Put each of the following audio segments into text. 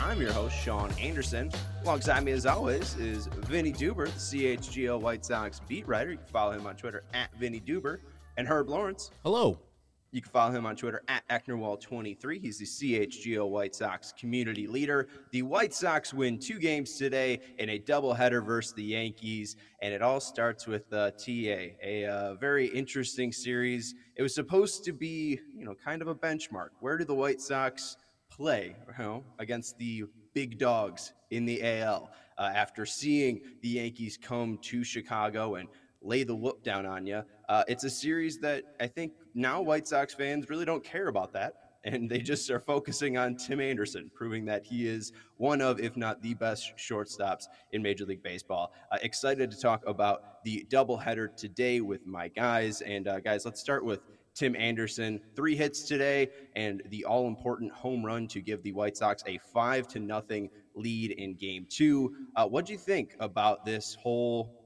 I'm your host, Sean Anderson. Alongside me, as always, is Vinny Duber, the CHGO White Sox beat writer. You can follow him on Twitter at Vinny Duber. And Herb Lawrence. Hello. You can follow him on Twitter at Ecknerwall23. He's the CHGO White Sox community leader. The White Sox win 2 games today in a doubleheader versus the Yankees, and it all starts with TA, a very interesting series. It was supposed to be, kind of a benchmark. Where do the White Sox play, against the big dogs in the AL after seeing the Yankees come to Chicago and lay the whoop down on you? It's a series that I think now White Sox fans really don't care about that, and they just are focusing on Tim Anderson, proving that he is one of, if not the best shortstops in Major League Baseball. Excited to talk about the doubleheader today with my guys. And guys, let's start with Tim Anderson. 3 hits today and the all-important home run to give the White Sox a 5-0 lead in Game 2. What do you think about this whole,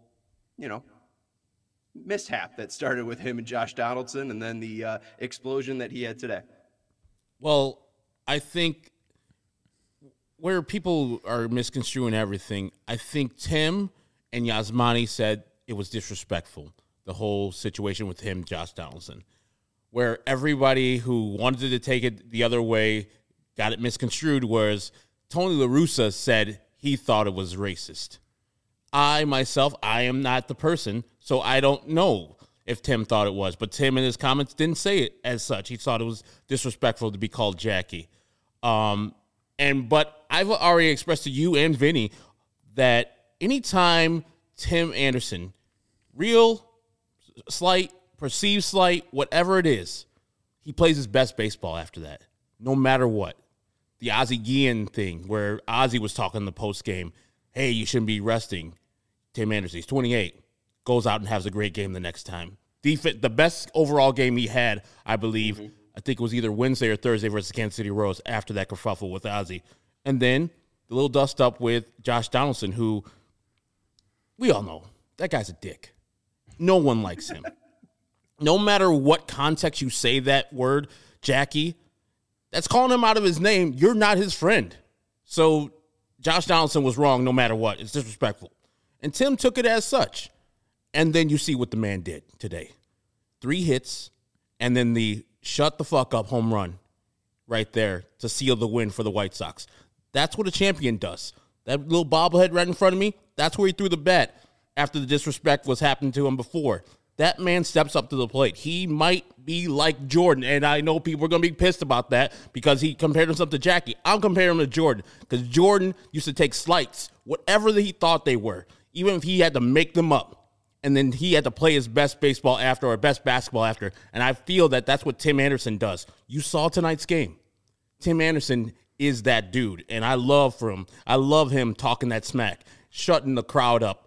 mishap that started with him and Josh Donaldson and then the explosion that he had today? Well, I think where people are misconstruing everything, I think Tim and Yasmani said it was disrespectful, the whole situation with him, Josh Donaldson, where everybody who wanted to take it the other way got it misconstrued, whereas Tony La Russa said he thought it was racist. I am not the person, so I don't know if Tim thought it was. But Tim in his comments didn't say it as such. He thought it was disrespectful to be called Jackie. But I've already expressed to you and Vinny that anytime Tim Anderson, real, slight, perceived slight, whatever it is, he plays his best baseball after that, no matter what. The Ozzie Guillen thing where Ozzie was talking in the postgame, hey, you shouldn't be resting Tim Anderson. He's 28. Goes out and has a great game the next time. The best overall game he had, I believe, I think it was either Wednesday or Thursday versus Kansas City Royals after that kerfuffle with Ozzie. And then the little dust up with Josh Donaldson, who we all know, that guy's a dick. No one likes him. No matter what context you say that word, Jackie, that's calling him out of his name. You're not his friend. So Josh Donaldson was wrong no matter what. It's disrespectful. And Tim took it as such. And then you see what the man did today. 3 hits, and then the shut the fuck up home run right there to seal the win for the White Sox. That's what a champion does. That little bobblehead right in front of me, that's where he threw the bat after the disrespect was happening to him before. That man steps up to the plate. He might be like Jordan, and I know people are going to be pissed about that because he compared himself to Jackie. I'm comparing him to Jordan because Jordan used to take slights, whatever he thought they were, even if he had to make them up. And then he had to play his best baseball after or best basketball after. And I feel that that's what Tim Anderson does. You saw tonight's game. Tim Anderson is that dude, and I love him talking that smack, shutting the crowd up.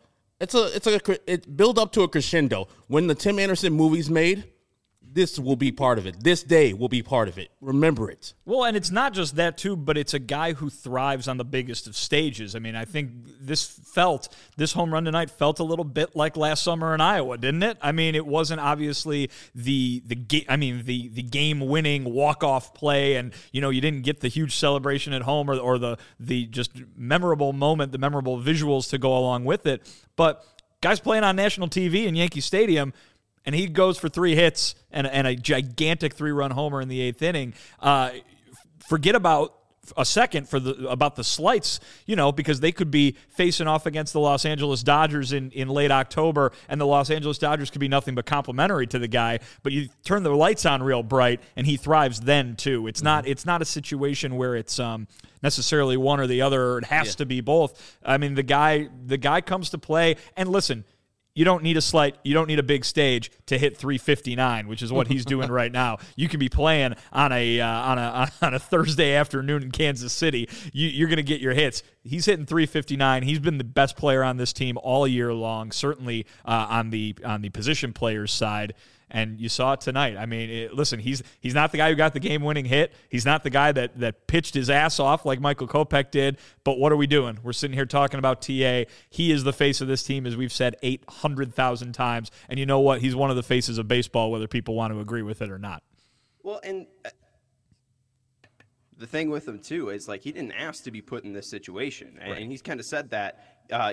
It build up to a crescendo. When the Tim Anderson movie's made, this will be part of it. This day will be part of it. Remember it. Well, and it's not just that, too, but it's a guy who thrives on the biggest of stages. I mean, I think this home run tonight felt a little bit like last summer in Iowa, didn't it? I mean, it wasn't obviously the game-winning walk-off play, and, you didn't get the huge celebration at home or the just memorable moment, the memorable visuals to go along with it. But guys playing on national TV in Yankee Stadium, and he goes for 3 hits and a gigantic 3-run homer in the 8th inning. Forget about a second about the slights, because they could be facing off against the Los Angeles Dodgers in late October, and the Los Angeles Dodgers could be nothing but complimentary to the guy. But you turn the lights on real bright, and he thrives then too. It's not a situation where it's necessarily one or the other. Or it has to be both. I mean, the guy comes to play, and listen. You don't need a big stage to hit 359, which is what he's doing right now. You can be playing on a Thursday afternoon in Kansas City. You're going to get your hits. He's hitting 359. He's been the best player on this team all year long, certainly on the position players side. And you saw it tonight. I mean, listen, he's not the guy who got the game-winning hit. He's not the guy that pitched his ass off like Michael Kopech did. But what are we doing? We're sitting here talking about TA. He is the face of this team, as we've said 800,000 times. And you know what? He's one of the faces of baseball, whether people want to agree with it or not. Well, and the thing with him too is like he didn't ask to be put in this situation, and he's kind of said that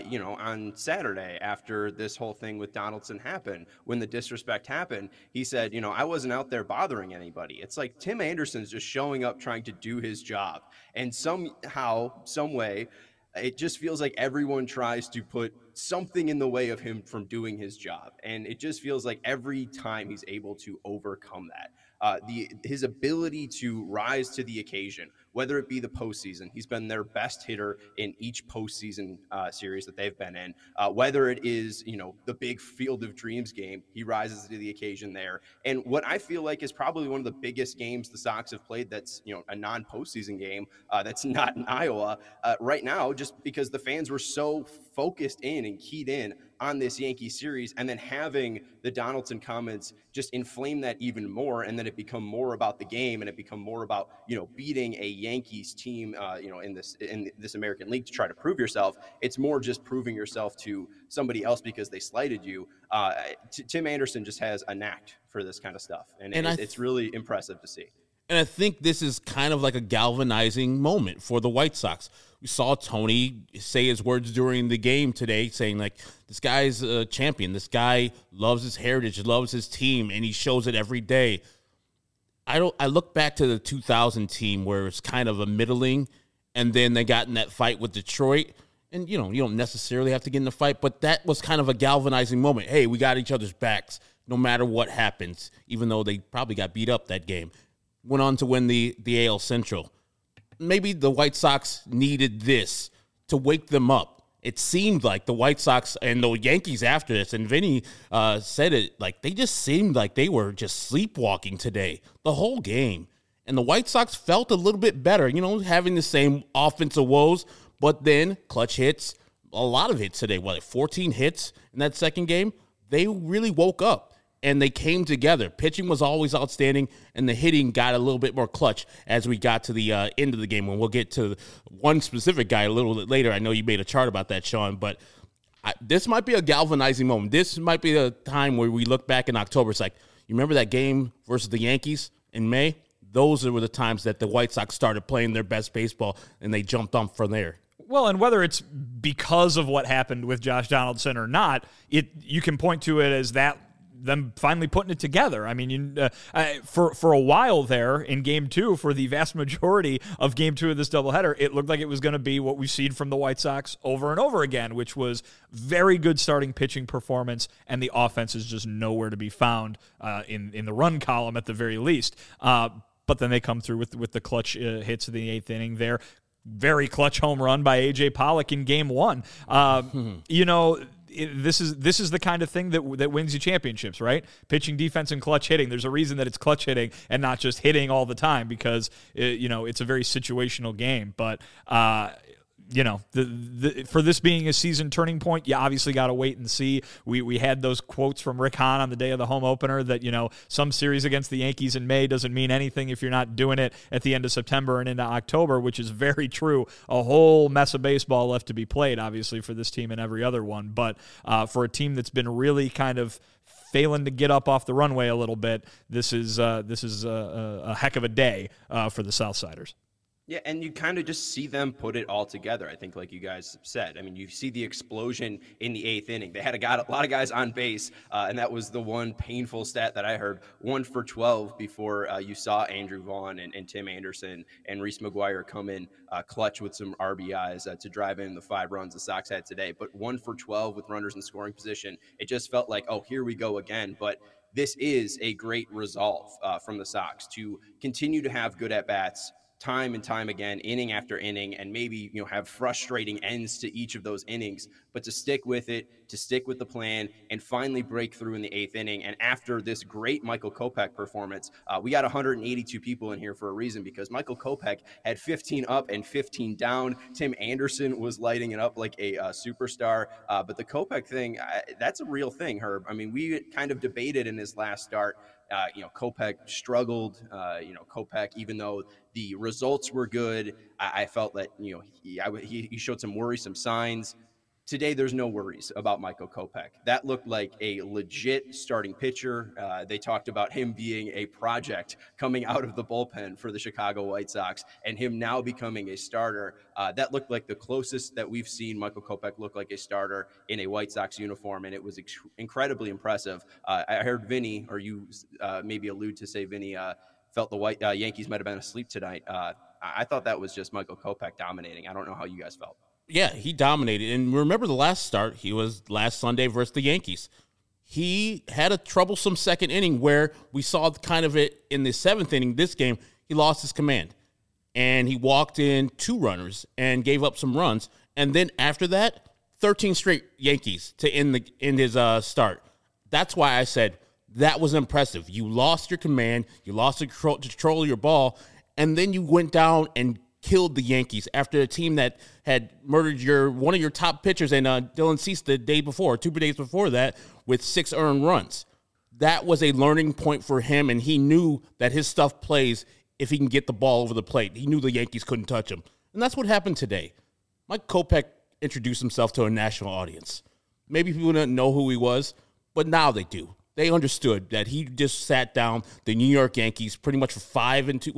on Saturday after this whole thing with Donaldson happened, when the disrespect happened, he said, I wasn't out there bothering anybody. It's like Tim Anderson's just showing up trying to do his job, and somehow, some way, it just feels like everyone tries to put something in the way of him from doing his job. And it just feels like every time he's able to overcome that. His ability to rise to the occasion, whether it be the postseason, he's been their best hitter in each postseason series that they've been in. Whether it is, the big Field of Dreams game, he rises to the occasion there. And what I feel like is probably one of the biggest games the Sox have played that's, a non-postseason game that's not in Iowa right now, just because the fans were so focused in and keyed in on this Yankee series, and then having the Donaldson comments just inflame that even more, and then it become more about the game, and it become more about beating a Yankees team in this American League to try to prove yourself. It's more just proving yourself to somebody else because they slighted you. Tim Anderson just has a knack for this kind of stuff, and it's really impressive to see. And I think this is kind of like a galvanizing moment for the White Sox. We saw Tony say his words during the game today, saying, like, this guy's a champion. This guy loves his heritage, loves his team, and he shows it every day. I look back to the 2000 team where it's kind of a middling, and then they got in that fight with Detroit. And, you don't necessarily have to get in the fight, but that was kind of a galvanizing moment. Hey, we got each other's backs no matter what happens, even though they probably got beat up that game. Went on to win the AL Central. Maybe the White Sox needed this to wake them up. It seemed like the White Sox and the Yankees after this, and Vinny said it, like they just seemed like they were just sleepwalking today, the whole game. And the White Sox felt a little bit better, having the same offensive woes, but then clutch hits, a lot of hits today. 14 hits in that second game? They really woke up. And they came together. Pitching was always outstanding, and the hitting got a little bit more clutch as we got to the end of the game. And we'll get to one specific guy a little bit later. I know you made a chart about that, Sean, but this might be a galvanizing moment. This might be a time where we look back in October. It's like, you remember that game versus the Yankees in May? Those were the times that the White Sox started playing their best baseball, and they jumped on from there. Well, and whether it's because of what happened with Josh Donaldson or not, you can point to it as them finally putting it together. I mean, for a while there in Game 2, for the vast majority of Game 2 of this doubleheader, it looked like it was going to be what we've seen from the White Sox over and over again, which was very good starting pitching performance, and the offense is just nowhere to be found in the run column at the very least. But then they come through with the clutch hits of the 8th inning there. Very clutch home run by A.J. Pollock in Game 1. This is the kind of thing that wins you championships, right? Pitching, defense, and clutch hitting. There's a reason that it's clutch hitting and not just hitting all the time, because it's a very situational game. But for this being a season turning point, you obviously got to wait and see. We had those quotes from Rick Hahn on the day of the home opener that, some series against the Yankees in May doesn't mean anything if you're not doing it at the end of September and into October, which is very true. A whole mess of baseball left to be played, obviously, for this team and every other one. But for a team that's been really kind of failing to get up off the runway a little bit, this is a heck of a day for the Southsiders. Yeah, and you kind of just see them put it all together, I think, like you guys said. I mean, you see the explosion in the 8th inning. They had a lot of guys on base, and that was the one painful stat that I heard, 1 for 12 before you saw Andrew Vaughn and Tim Anderson and Reese McGuire come in clutch with some RBIs to drive in the 5 runs the Sox had today. But 1 for 12 with runners in scoring position, it just felt like, oh, here we go again. But this is a great resolve from the Sox to continue to have good at-bats, time and time again, inning after inning, and maybe have frustrating ends to each of those innings, but to stick with it, to stick with the plan, and finally break through in the 8th inning. And after this great Michael Kopech performance, we got 182 people in here for a reason, because Michael Kopech had 15 up and 15 down. Tim Anderson was lighting it up like a superstar, but the Kopech thing, that's a real thing, Herb. I mean, we kind of debated in his last start. Kopech struggled. Kopech, even though the results were good, I felt that he showed some worrisome signs. Today, there's no worries about Michael Kopech. That looked like a legit starting pitcher. They talked about him being a project coming out of the bullpen for the Chicago White Sox and him now becoming a starter. That looked like the closest that we've seen Michael Kopech look like a starter in a White Sox uniform, and it was incredibly impressive. I heard Vinny, or you maybe allude to say Vinny, felt the Yankees might have been asleep tonight. I thought that was just Michael Kopech dominating. I don't know how you guys felt. Yeah, he dominated. And remember the last start, he was last Sunday versus the Yankees. He had a troublesome second inning where we saw kind of it in the seventh inning. This game, he lost his command. And he walked in 2 runners and gave up some runs. And then after that, 13 straight Yankees to end his start. That's why I said that was impressive. You lost your command. You lost the control of your ball. And then you went down and killed the Yankees after a team that had murdered one of your top pitchers and Dylan Cease the day before, 2 days before that, with 6 earned runs. That was a learning point for him, and he knew that his stuff plays if he can get the ball over the plate. He knew the Yankees couldn't touch him. And that's what happened today. Mike Kopech introduced himself to a national audience. Maybe people didn't know who he was, but now they do. They understood that he just sat down the New York Yankees pretty much for 5 or 6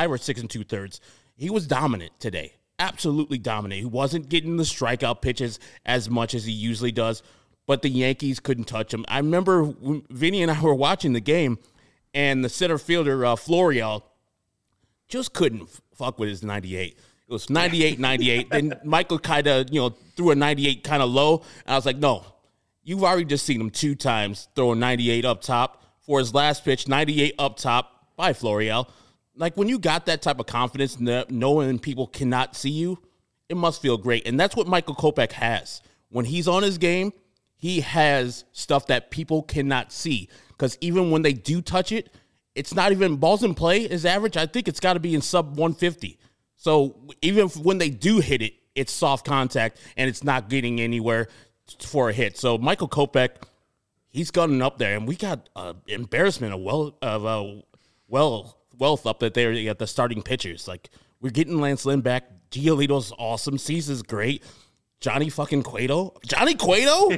2/3. He was dominant today, absolutely dominant. He wasn't getting the strikeout pitches as much as he usually does, but the Yankees couldn't touch him. I remember when Vinny and I were watching the game, and the center fielder, Florial, just couldn't fuck with his 98. It was 98. Then Michael kind of, threw a 98 kind of low, and I was like, no, you've already just seen him 2 times throw a 98 up top. For his last pitch, 98 up top by Florial. Like, when you got that type of confidence, knowing people cannot see you, it must feel great. And that's what Michael Kopech has. When he's on his game, he has stuff that people cannot see. Because even when they do touch it, it's not even balls in play. His average, I think it's got to be in sub 150. So even when they do hit it, it's soft contact, and it's not getting anywhere for a hit. So Michael Kopech, he's gotten up there, and we got embarrassment of wealth up there at the starting pitchers. Like, we're getting Lance Lynn back. Giolito's awesome. Cease's great. Johnny fucking Cueto. Johnny Cueto?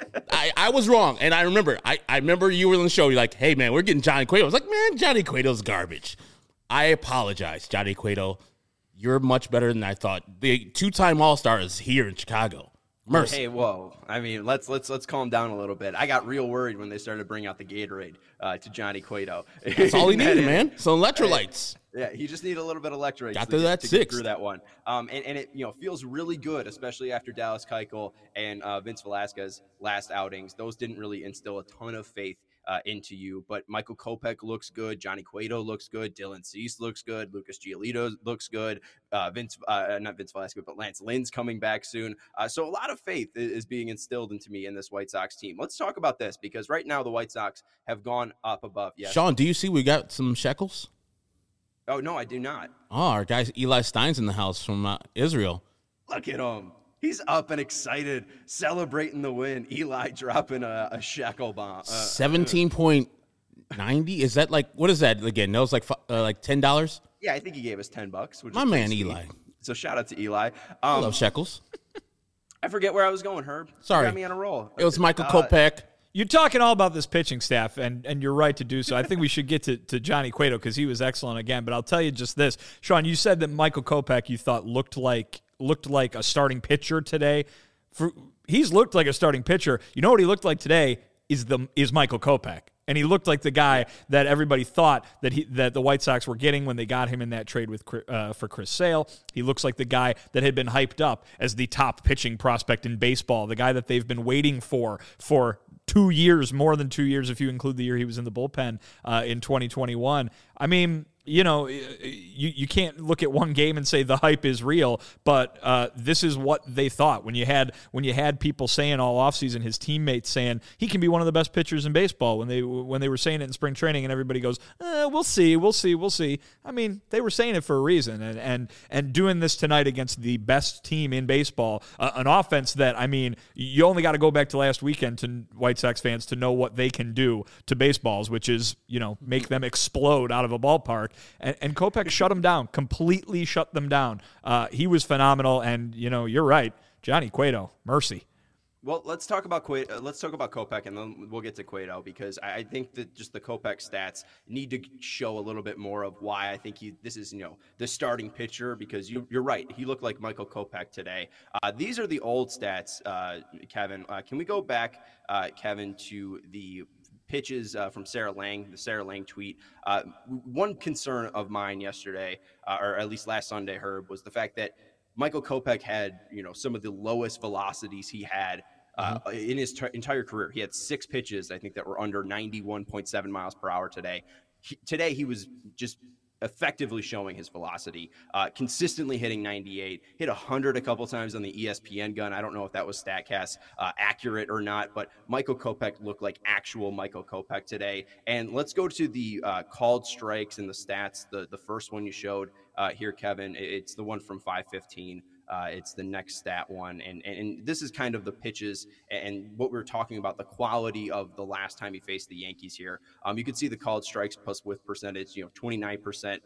I was wrong. And I remember you were on the show. You're like, hey, man, we're getting Johnny Cueto. I was like, man, Johnny Cueto's garbage. I apologize, Johnny Cueto. You're much better than I thought. The 2-time All-Star is here in Chicago. Mercy. Hey, whoa! I mean, let's calm down a little bit. I got real worried when they started to bring out the Gatorade to Johnny Cueto. That's all he needed, man. Some electrolytes. Yeah, he just needed a little bit of electrolytes. Got to that 6. Get through that one. And it feels really good, especially after Dallas Keuchel and Vince Velasquez last outings. Those didn't really instill a ton of faith into you, but Michael Kopech looks good. Johnny Cueto looks good. Dylan Cease looks good. Lucas Giolito looks good. Not Vince Velasquez, but Lance Lynn's coming back soon. So a lot of faith is being instilled into me in this White Sox team. Let's talk about this, because right now the White Sox have gone up above. Yes. Sean, do you see we got some shekels? Oh, no, I do not. Oh, our guy Eli Stein's in the house from Israel. Look at him. He's up and excited, celebrating the win. Eli dropping a shekel bomb. 17.90? Is that like, what is that again? That was like $10? Yeah, I think he gave us $10. Which My is man, sweet. Eli. So shout out to Eli. I love shekels. I forget where I was going, Herb. Sorry. You got me on a roll. It was Michael Kopech. You're talking all about this pitching staff, and you're right to do so. I think we should get to Johnny Cueto because he was excellent again. But I'll tell you just this. Sean, you said that Michael Kopech you thought looked like a starting pitcher today. He's looked like a starting pitcher. You know what he looked like today is Michael Kopech. And he looked like the guy that everybody thought that the White Sox were getting when they got him in that trade for Chris Sale. He looks like the guy that had been hyped up as the top pitching prospect in baseball, the guy that they've been waiting for 2 years, more than 2 years if you include the year he was in the bullpen in 2021. I mean, you can't look at one game and say the hype is real, but this is what they thought when you had people saying all offseason, his teammates saying he can be one of the best pitchers in baseball when they were saying it in spring training, and everybody goes, we'll see. I mean, they were saying it for a reason, and doing this tonight against the best team in baseball, an offense that, I mean, you only got to go back to last weekend to White Sox fans to know what they can do to baseballs, which is, make them explode out of a ballpark. And Kopech shut them down, completely shut them down. He was phenomenal, and, you're right. Johnny Cueto, mercy. Well, let's talk about Kopech, and then we'll get to Cueto, because I think that just the Kopech stats need to show a little bit more of why I think this is the starting pitcher, because you're right, he looked like Michael Kopech today. These are the old stats, Kevin. Can we go back, Kevin, to the pitches from Sarah Lang, the Sarah Lang tweet? One concern of mine yesterday, or at least last Sunday, Herb, was the fact that Michael Kopech had, some of the lowest velocities he had in his entire career. He had 6 pitches, I think, that were under 91.7 miles per hour today. Today, he was just effectively showing his velocity, consistently hitting 98, hit 100 a couple times on the ESPN gun. I don't know if that was StatCast accurate or not, but Michael Kopech looked like actual Michael Kopech today. And let's go to the called strikes and the stats. The first one you showed here, Kevin, it's the one from 5:15. It's the next stat one. And this is kind of the pitches and what we were talking about, the quality of the last time he faced the Yankees here. You could see the called strikes plus whiff percentage, 29%,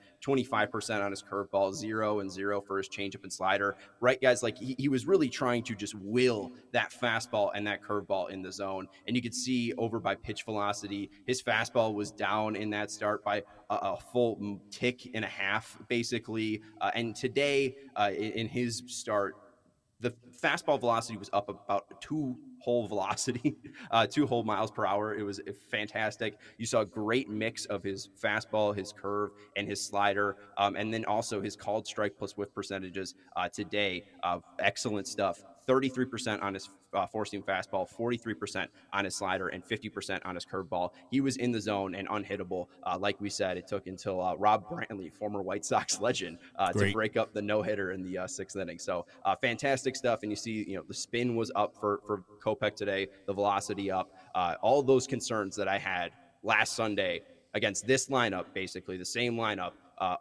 25% on his curveball, 0 and 0 for his changeup and slider. Right, guys? Like he was really trying to just will that fastball and that curveball in the zone. And you could see over by pitch velocity, his fastball was down in that start by a full tick and a half, basically. And today, in his start, the fastball velocity was up about 2 whole velocity, 2 whole miles per hour. It was fantastic. You saw a great mix of his fastball, his curve, and his slider, and then also his called strike plus whiff percentages today. Excellent stuff. 33% on his four-seam fastball, 43% on his slider, and 50% on his curveball. He was in the zone and unhittable. Like we said, it took until Rob Brantley, former White Sox legend, to break up the no-hitter in the 6th inning. So fantastic stuff. And you see, the spin was up for Kopech today, the velocity up. All those concerns that I had last Sunday against this lineup, basically the same lineup,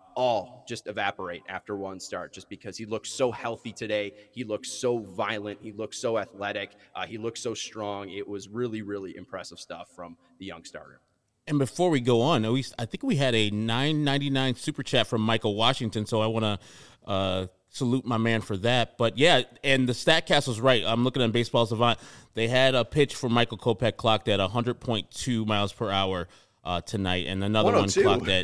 all just evaporate after one start, just because he looks so healthy today. He looks so violent. He looks so athletic. He looks so strong. It was really, really impressive stuff from the young starter. And before we go on, I think we had a $9.99 super chat from Michael Washington, so I want to salute my man for that. But yeah, and the StatCast was right. I'm looking at Baseball Savant. They had a pitch for Michael Kopech clocked at 100.2 miles per hour tonight, and another one clocked at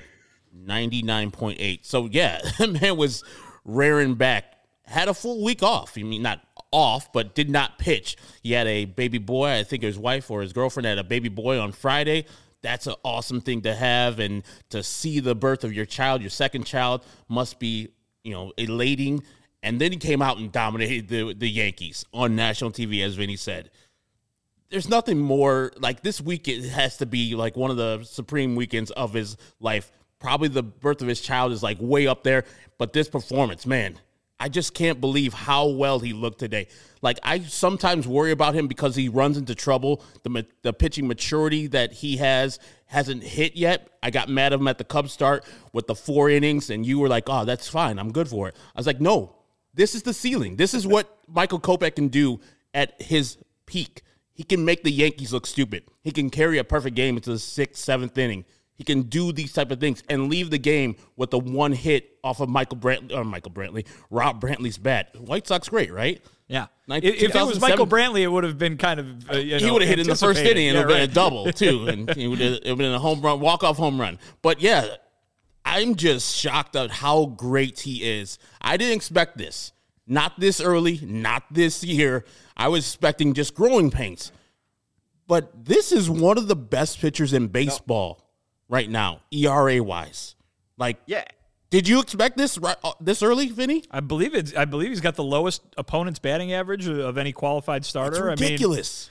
99.8. So yeah, that man was raring back. Had a full week off. I mean, not off, but did not pitch. He had a baby boy. I think his wife or his girlfriend had a baby boy on Friday. That's an awesome thing to have, and to see the birth of your child, your second child, must be, elating. And then he came out and dominated the Yankees on national TV, as Vinny said. There's nothing more, like, this week it has to be like one of the supreme weekends of his life. Probably the birth of his child is like way up there, but this performance, man, I just can't believe how well he looked today. Like, I sometimes worry about him because he runs into trouble. The pitching maturity that he hasn't hit yet. I got mad at him at the Cubs start with the 4 innings, and you were like, oh, that's fine, I'm good for it. I was like, no, this is the ceiling. This is what Michael Kopech can do at his peak. He can make the Yankees look stupid. He can carry a perfect game into the 6th, 7th inning. He can do these type of things and leave the game with the one hit off of Rob Brantley's bat. White Sox great, right? Yeah. If it was Michael Brantley, it would have been kind of, he would have hit in the first inning, and it would have been a double, too. And it would have been a home run, walk-off home run. But, yeah, I'm just shocked at how great he is. I didn't expect this. Not this early, not this year. I was expecting just growing pains. But this is one of the best pitchers in baseball right now, ERA-wise. Like, yeah. Did you expect this this early, Vinny? I believe he's got the lowest opponent's batting average of any qualified starter. It's ridiculous.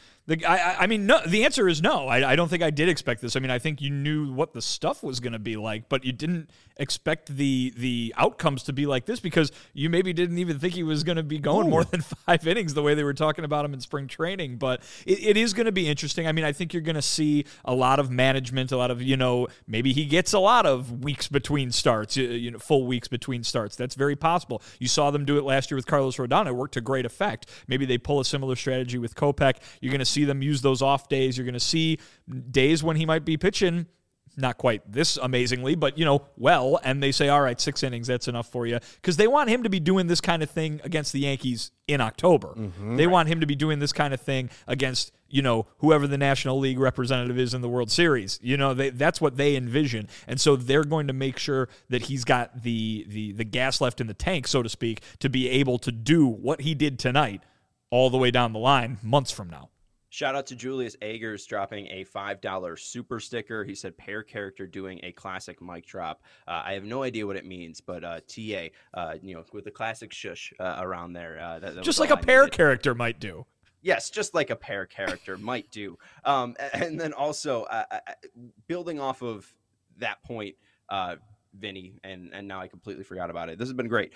The answer is no. I don't think I did expect this. I mean, I think you knew what the stuff was going to be like, but you didn't expect the outcomes to be like this, because you maybe didn't even think he was going to be going more than 5 innings the way they were talking about him in spring training. But it is going to be interesting. I mean, I think you're going to see a lot of management, a lot of, maybe he gets a lot of weeks between starts, full weeks between starts. That's very possible. You saw them do it last year with Carlos Rodon. It worked to great effect. Maybe they pull a similar strategy with Kopech. You're going to see them use those off days. You're going to see days when he might be pitching not quite this amazingly, but, well, and they say, all right, 6 innings, that's enough for you. Because they want him to be doing this kind of thing against the Yankees in October. They want him to be doing this kind of thing against, whoever the National League representative is in the World Series. That's what they envision. And so they're going to make sure that he's got the gas left in the tank, so to speak, to be able to do what he did tonight all the way down the line months from now. Shout out to Julius Agers dropping a $5 super sticker. He said pair character doing a classic mic drop. I have no idea what it means, but TA, with the classic shush around there. That just like a pair character might do. Yes, just like a pair character might do. And then also building off of that point, Vinny, and now I completely forgot about it. This has been great.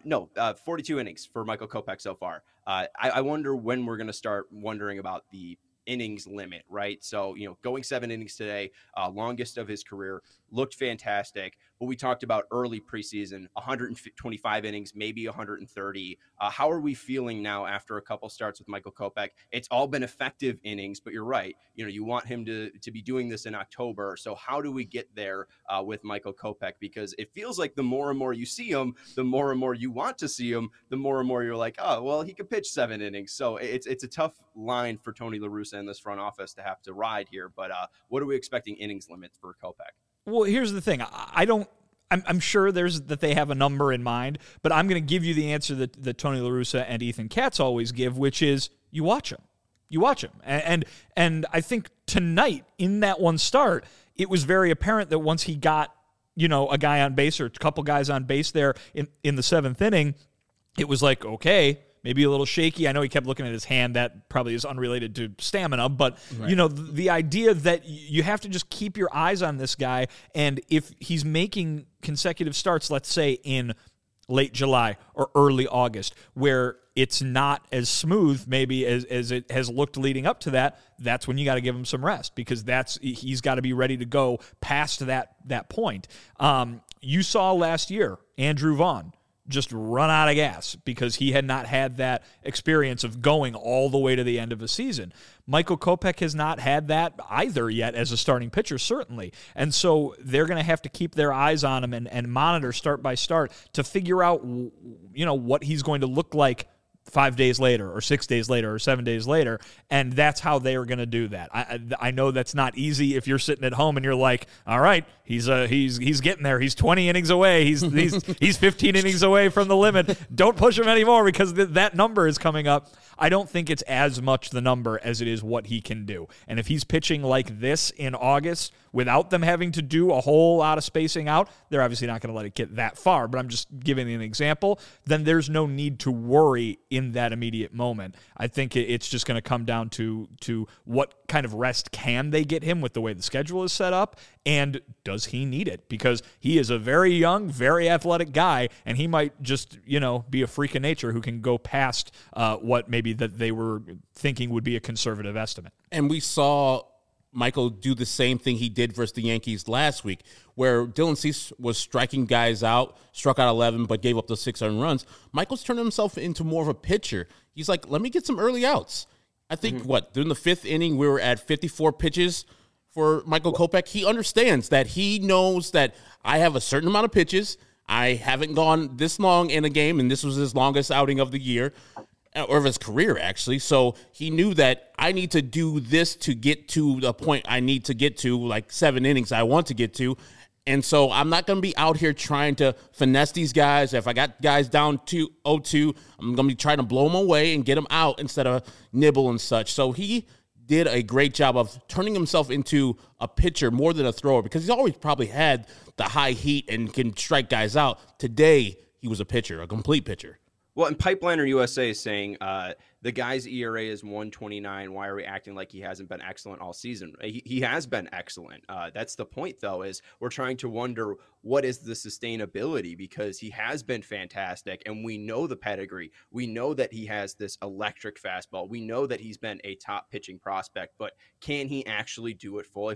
42 innings for Michael Kopech so far. I wonder when we're going to start wondering about the innings limit, right? So, going 7 innings today, longest of his career, looked fantastic. But we talked about early preseason, 125 innings, maybe 130. How are we feeling now after a couple starts with Michael Kopech? It's all been effective innings, but you're right. You want him to be doing this in October. So how do we get there with Michael Kopech? Because it feels like the more and more you see him, the more and more you want to see him, the more and more you're like, oh, well, he could pitch 7 innings. So it's a tough line for Tony La Russa and this front office to have to ride here. But what are we expecting innings limits for Kopech? Well, here's the thing. I'm sure that they have a number in mind, but I'm going to give you the answer that Tony La Russa and Ethan Katz always give, which is you watch him. You watch him. And I think tonight in that one start, it was very apparent that once he got, a guy on base or a couple guys on base there in the 7th inning, it was like, okay, maybe a little shaky. I know he kept looking at his hand. That probably is unrelated to stamina. But, right. The idea that you have to just keep your eyes on this guy. And if he's making consecutive starts, let's say in late July or early August, where it's not as smooth maybe as it has looked leading up to that, that's when you got to give him some rest, because he's got to be ready to go past that point. You saw last year, Andrew Vaughn just run out of gas because he had not had that experience of going all the way to the end of a season. Michael Kopech has not had that either yet as a starting pitcher, certainly. And so they're going to have to keep their eyes on him and monitor start by start to figure out, what he's going to look like 5 days later or 6 days later or 7 days later, and that's how they are going to do that. I know that's not easy if you're sitting at home and you're like, all right, he's getting there. He's 20 innings away. He's 15 innings away from the limit. Don't push him anymore because that number is coming up. I don't think it's as much the number as it is what he can do. And if he's pitching like this in August without them having to do a whole lot of spacing out, they're obviously not going to let it get that far, but I'm just giving an example, then there's no need to worry in that immediate moment. I think it's just going to come down to what kind of rest can they get him with the way the schedule is set up, and does he need it? Because he is a very young, very athletic guy, and he might just, be a freak of nature who can go past what maybe that they were thinking would be a conservative estimate. And we saw Michael do the same thing he did versus the Yankees last week, where Dylan Cease was striking guys out, struck out 11, but gave up the 6 earned runs. Michael's turned himself into more of a pitcher. He's like, let me get some early outs. I think, during the 5th inning, we were at 54 pitches for Michael Kopech. He understands that he knows that I have a certain amount of pitches. I haven't gone this long in a game, and this was his longest outing of the year, or of his career, actually. So he knew that I need to do this to get to the point I need to get to, like 7 innings I want to get to. And so I'm not going to be out here trying to finesse these guys. If I got guys down 2-0-2, I'm going to be trying to blow them away and get them out instead of nibble and such. So he did a great job of turning himself into a pitcher more than a thrower, because he's always probably had the high heat and can strike guys out. Today, he was a pitcher, a complete pitcher. Well, and Pipeliner USA is saying the guy's ERA is 1.29. Why are we acting like he hasn't been excellent all season? He has been excellent. That's the point, though, is we're trying to wonder what is the sustainability, because he has been fantastic, and we know the pedigree. We know that he has this electric fastball. We know that he's been a top pitching prospect, but can he actually do it full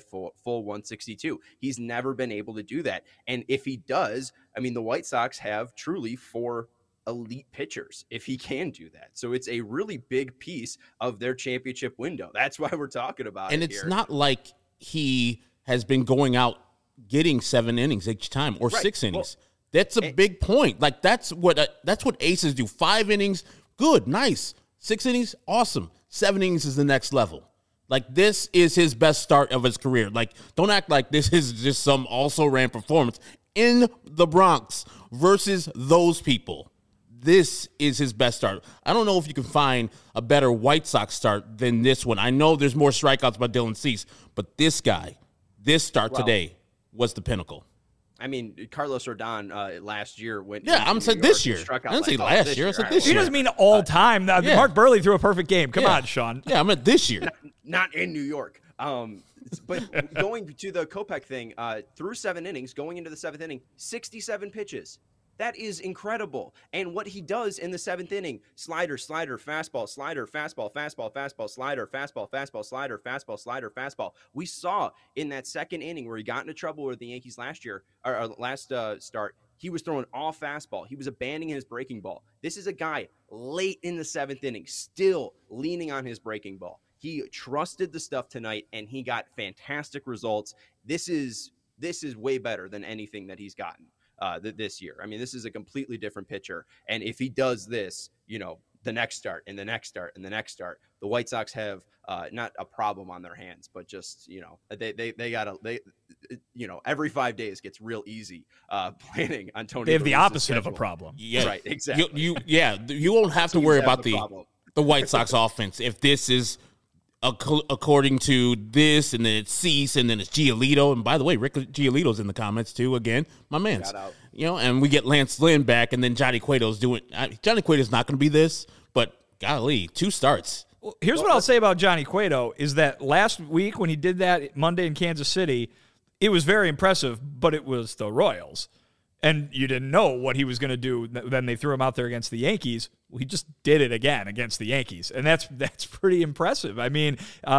162? He's never been able to do that. And if he does, I mean, the White Sox have truly 4 elite pitchers if he can do that. So it's a really big piece of their championship window. That's why we're talking about it. And it's here. not like he has been going out getting 7 innings each time or Right. 6 innings. That's a big point. Like that's what aces do. 5 innings, good, nice. 6 innings, awesome. 7 innings is the next level. Like this is his best start of his career. Like don't act like this is just some also ran performance in the Bronx versus those people. This is his best start. I don't know if you can find a better White Sox start than this one. I know there's more strikeouts by Dylan Cease, but this start today was the pinnacle. I mean, Carlos Rodon last year went. Yeah, I'm saying this year. I didn't say last year. I said this year. He doesn't mean all time. Mark Burley threw a perfect game. Come on, Sean. Yeah, I meant this year. Not in New York. But going to the Kopech thing, through 7 innings, going into the 7th inning, 67 pitches. That is incredible. And what he does in the 7th inning, slider, fastball, slider, fastball, slider, fastball, slider, fastball. We saw in that 2nd inning where he got into trouble with the Yankees last year, or last start, he was throwing all fastball. He was abandoning his breaking ball. This is a guy late in the 7th inning, still leaning on his breaking ball. He trusted the stuff tonight, and he got fantastic results. This is way better than anything that he's gotten this year. I mean, this is a completely different pitcher. And if he does this, the next start and the next start and the next start, the White Sox have not a problem on their hands, but just, they gotta, every 5 days gets real easy planning on Tony. They have the opposite schedule. of a problem. Yeah, right. Exactly. You won't have to worry about the White Sox offense if this is according to this, and then it's Cease, and then it's Giolito. And by the way, Rick Giolito's in the comments too. Again, my man's. Shout out. And we get Lance Lynn back, and then Johnny Cueto's doing. Johnny Cueto's not going to be this, but golly, 2 starts. Well, here's what I'll say about Johnny Cueto is that last week when he did that Monday in Kansas City, it was very impressive, but it was the Royals. And you didn't know what he was going to do. Then they threw him out there against the Yankees. Well, he just did it again against the Yankees. And that's pretty impressive. I mean,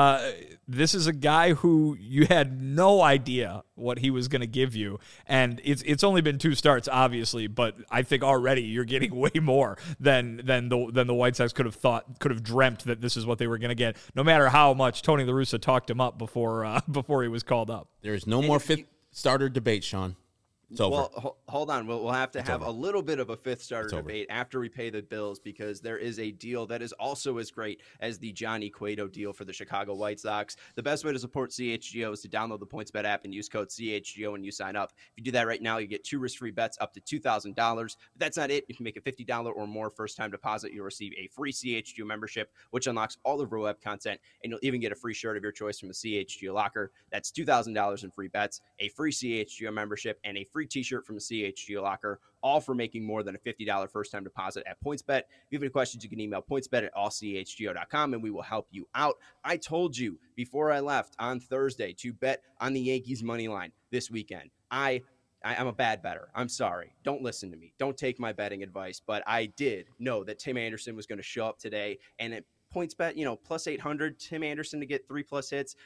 this is a guy who you had no idea what he was going to give you. And it's only been 2 starts, obviously, but I think already you're getting way more than the White Sox could have dreamt that this is what they were going to get, no matter how much Tony La Russa talked him up before he was called up. There is no more 5th starter debate, Sean. It's over. Well, hold on. We'll have to have a little bit of a 5th starter debate after we pay the bills, because there is a deal that is also as great as the Johnny Cueto deal for the Chicago White Sox. The best way to support CHGO is to download the PointsBet app and use code CHGO when you sign up. If you do that right now, you get 2 risk-free bets up to $2,000. But that's not it. If you make a $50 or more first-time deposit, you'll receive a free CHGO membership, which unlocks all of our web content, and you'll even get a free shirt of your choice from the CHGO locker. That's $2,000 in free bets, a free CHGO membership, and a free t-shirt from the CHGO locker, all for making more than a $50 first-time deposit at PointsBet. If you have any questions, you can email pointsbet@allchgo.com, and we will help you out. I told you before I left on Thursday to bet on the Yankees money line this weekend. I'm a bad bettor. I'm sorry. Don't listen to me. Don't take my betting advice. But I did know that Tim Anderson was going to show up today, and at PointsBet, plus 800, Tim Anderson to get 3+ hits.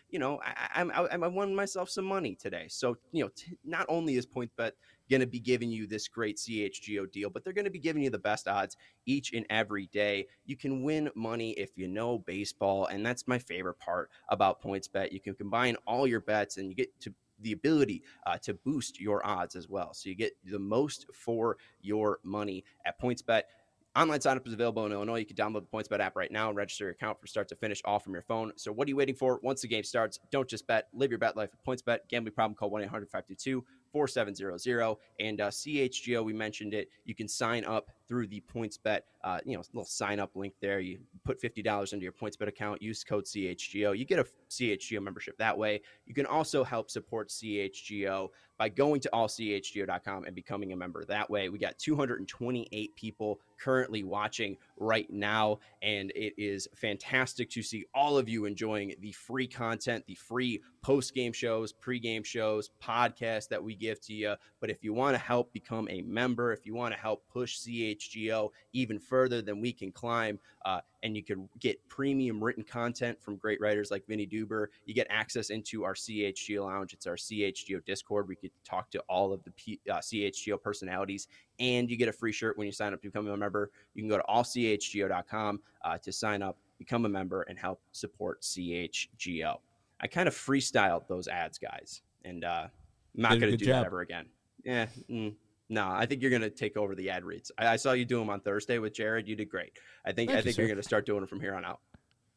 I won myself some money today. So, not only is PointsBet going to be giving you this great CHGO deal, but they're going to be giving you the best odds each and every day. You can win money if you know baseball, and that's my favorite part about PointsBet. You can combine all your bets, and you get to the ability to boost your odds as well. So you get the most for your money at PointsBet. Online sign-up is available in Illinois. You can download the PointsBet app right now and register your account from start to finish, all from your phone. So what are you waiting for? Once the game starts, don't just bet. Live your bet life with PointsBet. Gambling problem, call 1-800-522-4700. And CHGO, we mentioned it. You can sign up through the PointsBet, little sign-up link there. You put $50 into your PointsBet account. Use code CHGO. You get a CHGO membership that way. You can also help support CHGO by going to allchgo.com and becoming a member that way. We got 228 people currently watching right now, and it is fantastic to see all of you enjoying the free content, the free post-game shows, pre-game shows, podcasts that we give to you. But if you want to help become a member, if you want to help push CHGO even further than we can climb, and you can get premium written content from great writers like Vinny Duber, you get access into our CHGO lounge. It's our CHGO Discord. We could talk to all of the CHGO personalities, and you get a free shirt when you sign up to become a member. You can go to allchgo.com to sign up, become a member, and help support CHGO. I kind of freestyled those ads, guys, and not Did a going to good do job. that ever again. Yeah. No, I think you're going to take over the ad reads. I saw you do them on Thursday with Jared. You did great. I think Thank you, you're sir. going to start doing them from here on out.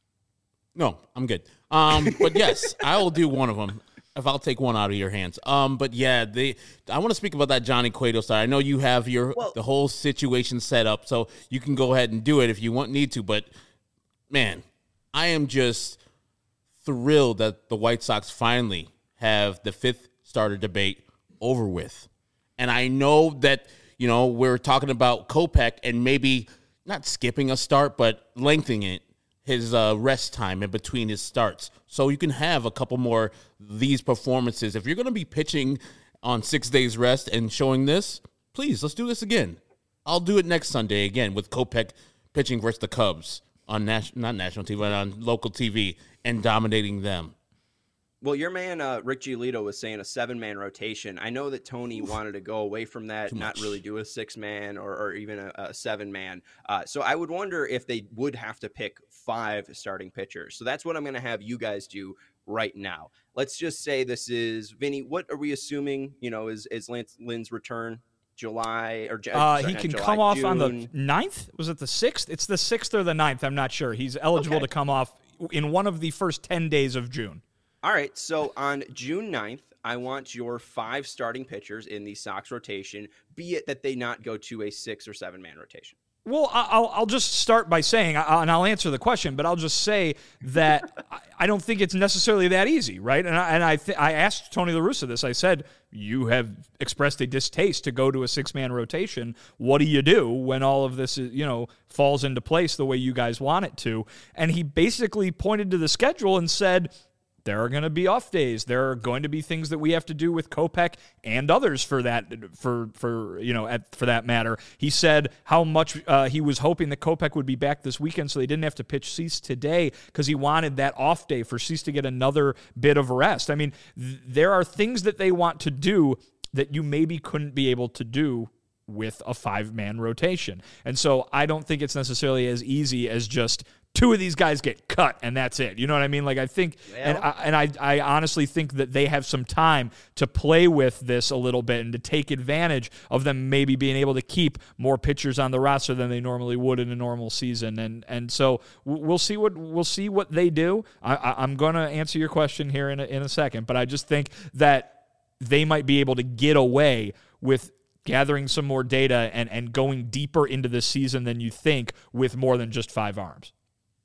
No, I'm good. But yes, I will do one of them if I'll take one out of your hands. But yeah, I want to speak about that Johnny Cueto side. I know you have the whole situation set up, so you can go ahead and do it if you need to. But man, I am just thrilled that the White Sox finally have the fifth starter debate over with. And I know that, we're talking about Kopech and maybe not skipping a start, but lengthening it, his rest time in between his starts. So you can have a couple more these performances. If you're going to be pitching on 6 days rest and showing this, please, let's do this again. I'll do it next Sunday again with Kopech pitching versus the Cubs on not national TV, but on local TV and dominating them. Well, your man, Rick Giolito, was saying a 7-man rotation. I know that Tony wanted to go away from that, not really do a 6-man or even a 7-man. So I would wonder if they would have to pick 5 starting pitchers. So that's what I'm going to have you guys do right now. Let's just say this is, Vinny, what are we assuming, is Lance Lynn's return? July or he can come off June. On the 9th. Was it the 6th? It's the 6th or the 9th. I'm not sure. He's eligible to come off in one of the first 10 days of June. All right, so on June 9th, I want your 5 starting pitchers in the Sox rotation, be it that they not go to a 6 or 7-man rotation. Well, I'll just start by saying, and I'll answer the question, but I'll just say that I don't think it's necessarily that easy, right? And I asked Tony La Russa this. I said, you have expressed a distaste to go to a 6-man rotation. What do you do when all of this is, falls into place the way you guys want it to? And he basically pointed to the schedule and said, there are going to be off days. There are going to be things that we have to do with Kopech and others for that matter. He said how much he was hoping that Kopech would be back this weekend so they didn't have to pitch Cease today because he wanted that off day for Cease to get another bit of rest. I mean, there are things that they want to do that you maybe couldn't be able to do with a 5-man rotation. And so I don't think it's necessarily as easy as just 2 of these guys get cut and that's it. You know what I mean? Like I think, I honestly think that they have some time to play with this a little bit and to take advantage of them maybe being able to keep more pitchers on the roster than they normally would in a normal season. And so we'll see what they do. I'm going to answer your question here in a second, but I just think that they might be able to get away with gathering some more data and going deeper into the season than you think with more than just 5 arms.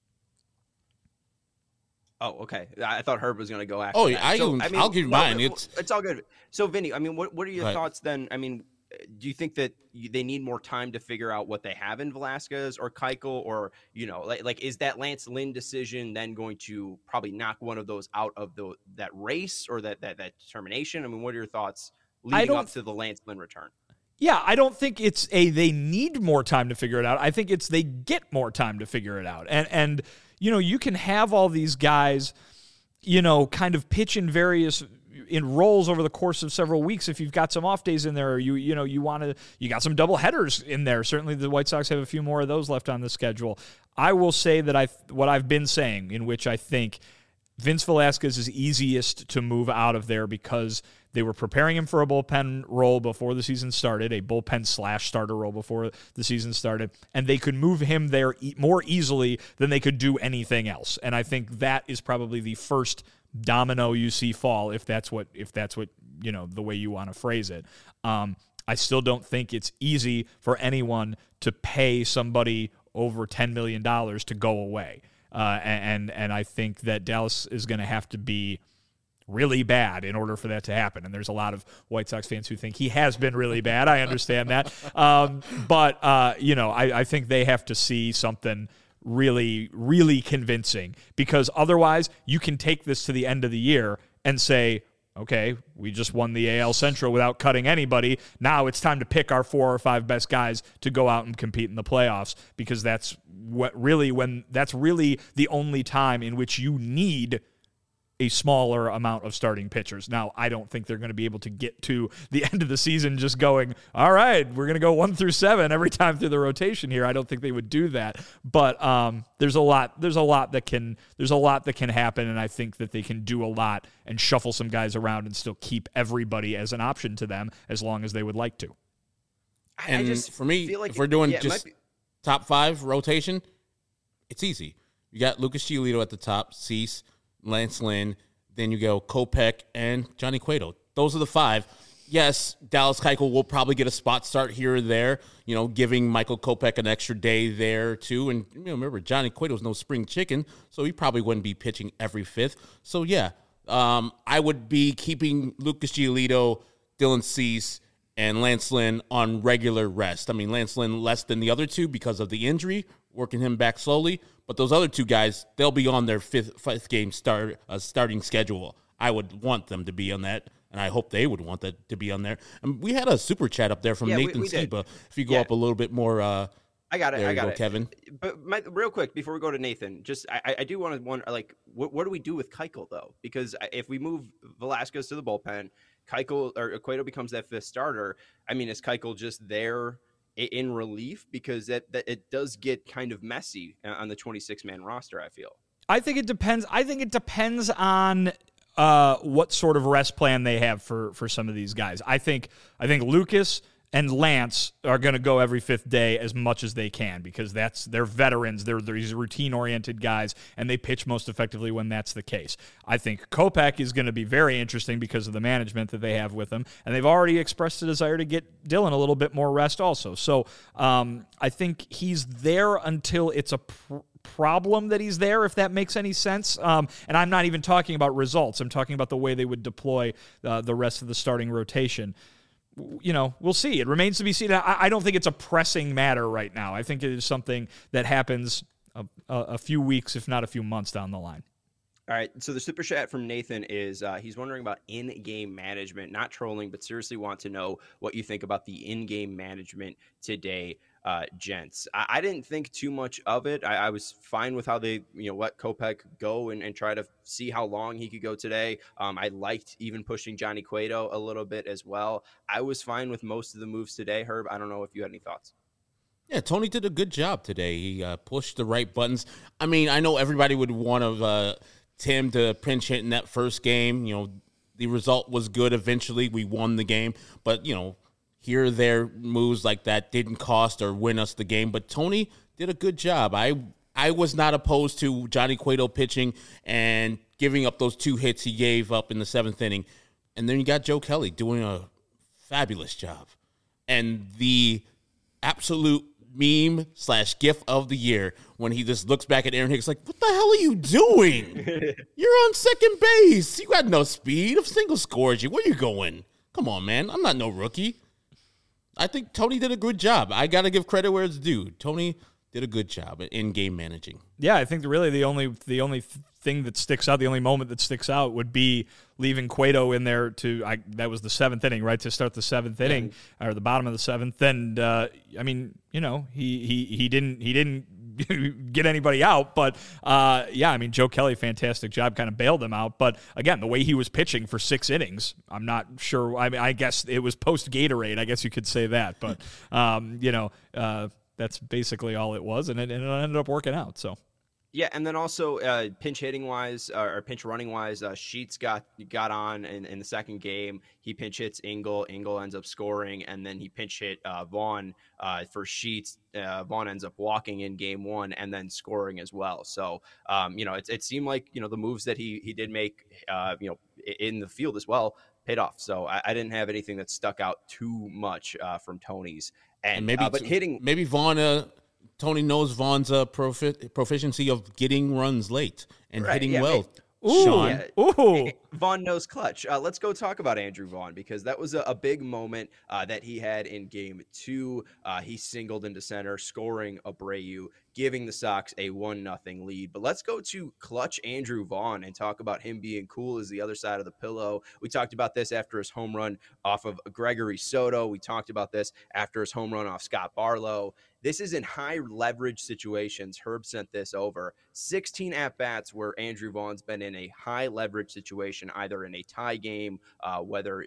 Oh, okay. I thought Herb was going to go after. Oh, yeah, I'll give you mine. It's all good. So, Vinny, I mean, what are your thoughts then? I mean, do you think that they need more time to figure out what they have in Velasquez or Keuchel, or like is that Lance Lynn decision then going to probably knock one of those out of that race or that determination? I mean, what are your thoughts leading up to the Lance Lynn return? Yeah, I don't think it's they need more time to figure it out. I think it's they get more time to figure it out. And you can have all these guys, kind of pitch in roles over the course of several weeks if you've got some off days in there, or you got some double headers in there. Certainly the White Sox have a few more of those left on the schedule. I will say that what I've been saying, in which I think Vince Velasquez is easiest to move out of there because they were preparing him for a bullpen role before the season started, a bullpen / starter role before the season started, and they could move him there more easily than they could do anything else. And I think that is probably the first domino you see fall, if that's what the way you want to phrase it. I still don't think it's easy for anyone to pay somebody over $10 million to go away. And I think that Dallas is going to have to be really bad in order for that to happen. And there's a lot of White Sox fans who think he has been really bad. I understand that. But I think they have to see something really, really convincing, because otherwise you can take this to the end of the year and say, okay, we just won the AL Central without cutting anybody. Now it's time to pick our 4 or 5 best guys to go out and compete in the playoffs, because that's really the only time in which you need a smaller amount of starting pitchers. Now, I don't think they're going to be able to get to the end of the season just going, all right, we're going to go 1 through 7 every time through the rotation here. I don't think they would do that. But there's a lot that can happen, and I think that they can do a lot and shuffle some guys around and still keep everybody as an option to them as long as they would like to. And I just for me, feel like if we're doing it just top 5 rotation, it's easy. You got Lucas Giolito at the top, Cease, Lance Lynn, then you go Kopech and Johnny Cueto. Those are the 5. Yes, Dallas Keuchel will probably get a spot start here or there, giving Michael Kopech an extra day there too. And remember, Johnny Cueto's no spring chicken, so he probably wouldn't be pitching every 5th. So yeah, I would be keeping Lucas Giolito, Dylan Cease, and Lance Lynn on regular rest. I mean, Lance Lynn less than the other 2 because of the injury, working him back slowly. But those other 2 guys, they'll be on their fifth game starting schedule. I would want them to be on that, and I hope they would want that to be on there. And we had a super chat up there from Nathan Skiba. If you go up a little bit more, I got it. there I you got go, it, Kevin. But real quick before we go to Nathan, just I do want to wonder, like, what do we do with Keuchel though? Because if we move Velasquez to the bullpen, Keuchel or Cueto becomes that 5th starter. I mean, is Keuchel just there in relief? Because that it does get kind of messy on the 26-man roster, I feel. I think it depends. I think it depends on what sort of rest plan they have for some of these guys. I think Lucas and Lance are going to go every 5th day as much as they can because they're veterans. They're these routine-oriented guys, and they pitch most effectively when that's the case. I think Kopech is going to be very interesting because of the management that they have with him, and they've already expressed a desire to get Dylan a little bit more rest also. So I think he's there until it's a problem that he's there, if that makes any sense. And I'm not even talking about results. I'm talking about the way they would deploy the rest of the starting rotation. We'll see. It remains to be seen. I don't think it's a pressing matter right now. I think it is something that happens a few weeks, if not a few months down the line. All right, so the super chat from Nathan is he's wondering about in-game management, not trolling, but seriously want to know what you think about the in-game management today, gents. I didn't think too much of it. I was fine with how they let Kopech go and try to see how long he could go today. I liked even pushing Johnny Cueto a little bit as well. I was fine with most of the moves today. Herb, I don't know if you had any thoughts. Yeah, Tony did a good job today. He pushed the right buttons. I mean, I know everybody would want to Tim to pinch hit in that first game. The result was good eventually. We won the game. But, here or there moves like that didn't cost or win us the game. But Tony did a good job. I was not opposed to Johnny Cueto pitching and giving up those 2 hits he gave up in the 7th inning. And then you got Joe Kelly doing a fabulous job. And the absolute meme / gif of the year when he just looks back at Aaron Hicks like, what the hell are you doing? You're on second base. You got no speed. If single scores you, where you going? Come on, man. I'm not no rookie. I think Tony did a good job. I got to give credit where it's due. Tony did a good job in game managing. Yeah, I think really the only thing that sticks out, the only moment that sticks out would be leaving Cueto in there that was the 7th inning, right, to start the 7th inning or the bottom of the 7th. And I mean, he didn't get anybody out, but I mean, Joe Kelly, fantastic job, kind of bailed him out. But again, the way he was pitching for 6 innings, I'm not sure. I mean, I guess it was post Gatorade. I guess you could say that, but that's basically all it was, and it ended up working out. So. Yeah, and then also pinch hitting wise or pinch running wise, Sheets got on in the second game. He pinch hits Engel. Engel ends up scoring, and then he pinch hit Vaughn for Sheets. Vaughn ends up walking in game 1 and then scoring as well. So it seemed like the moves that he did make in the field as well paid off. So I didn't have anything that stuck out too much from Tony's and maybe but hitting maybe Vaughn. Tony knows Vaughn's proficiency of getting runs late and hitting well. Ooh, Sean. Ooh. Vaughn knows clutch. Let's go talk about Andrew Vaughn because that was a big moment that he had in game 2. He singled into center, scoring Abreu, giving the Sox a 1-0 lead. But let's go to clutch Andrew Vaughn and talk about him being cool as the other side of the pillow. We talked about this after his home run off of Gregory Soto. We talked about this after his home run off Scott Barlow. this is in high leverage situations. Herb sent this over. 16 at-bats where Andrew Vaughn's been in a high leverage situation, either in a tie game, whether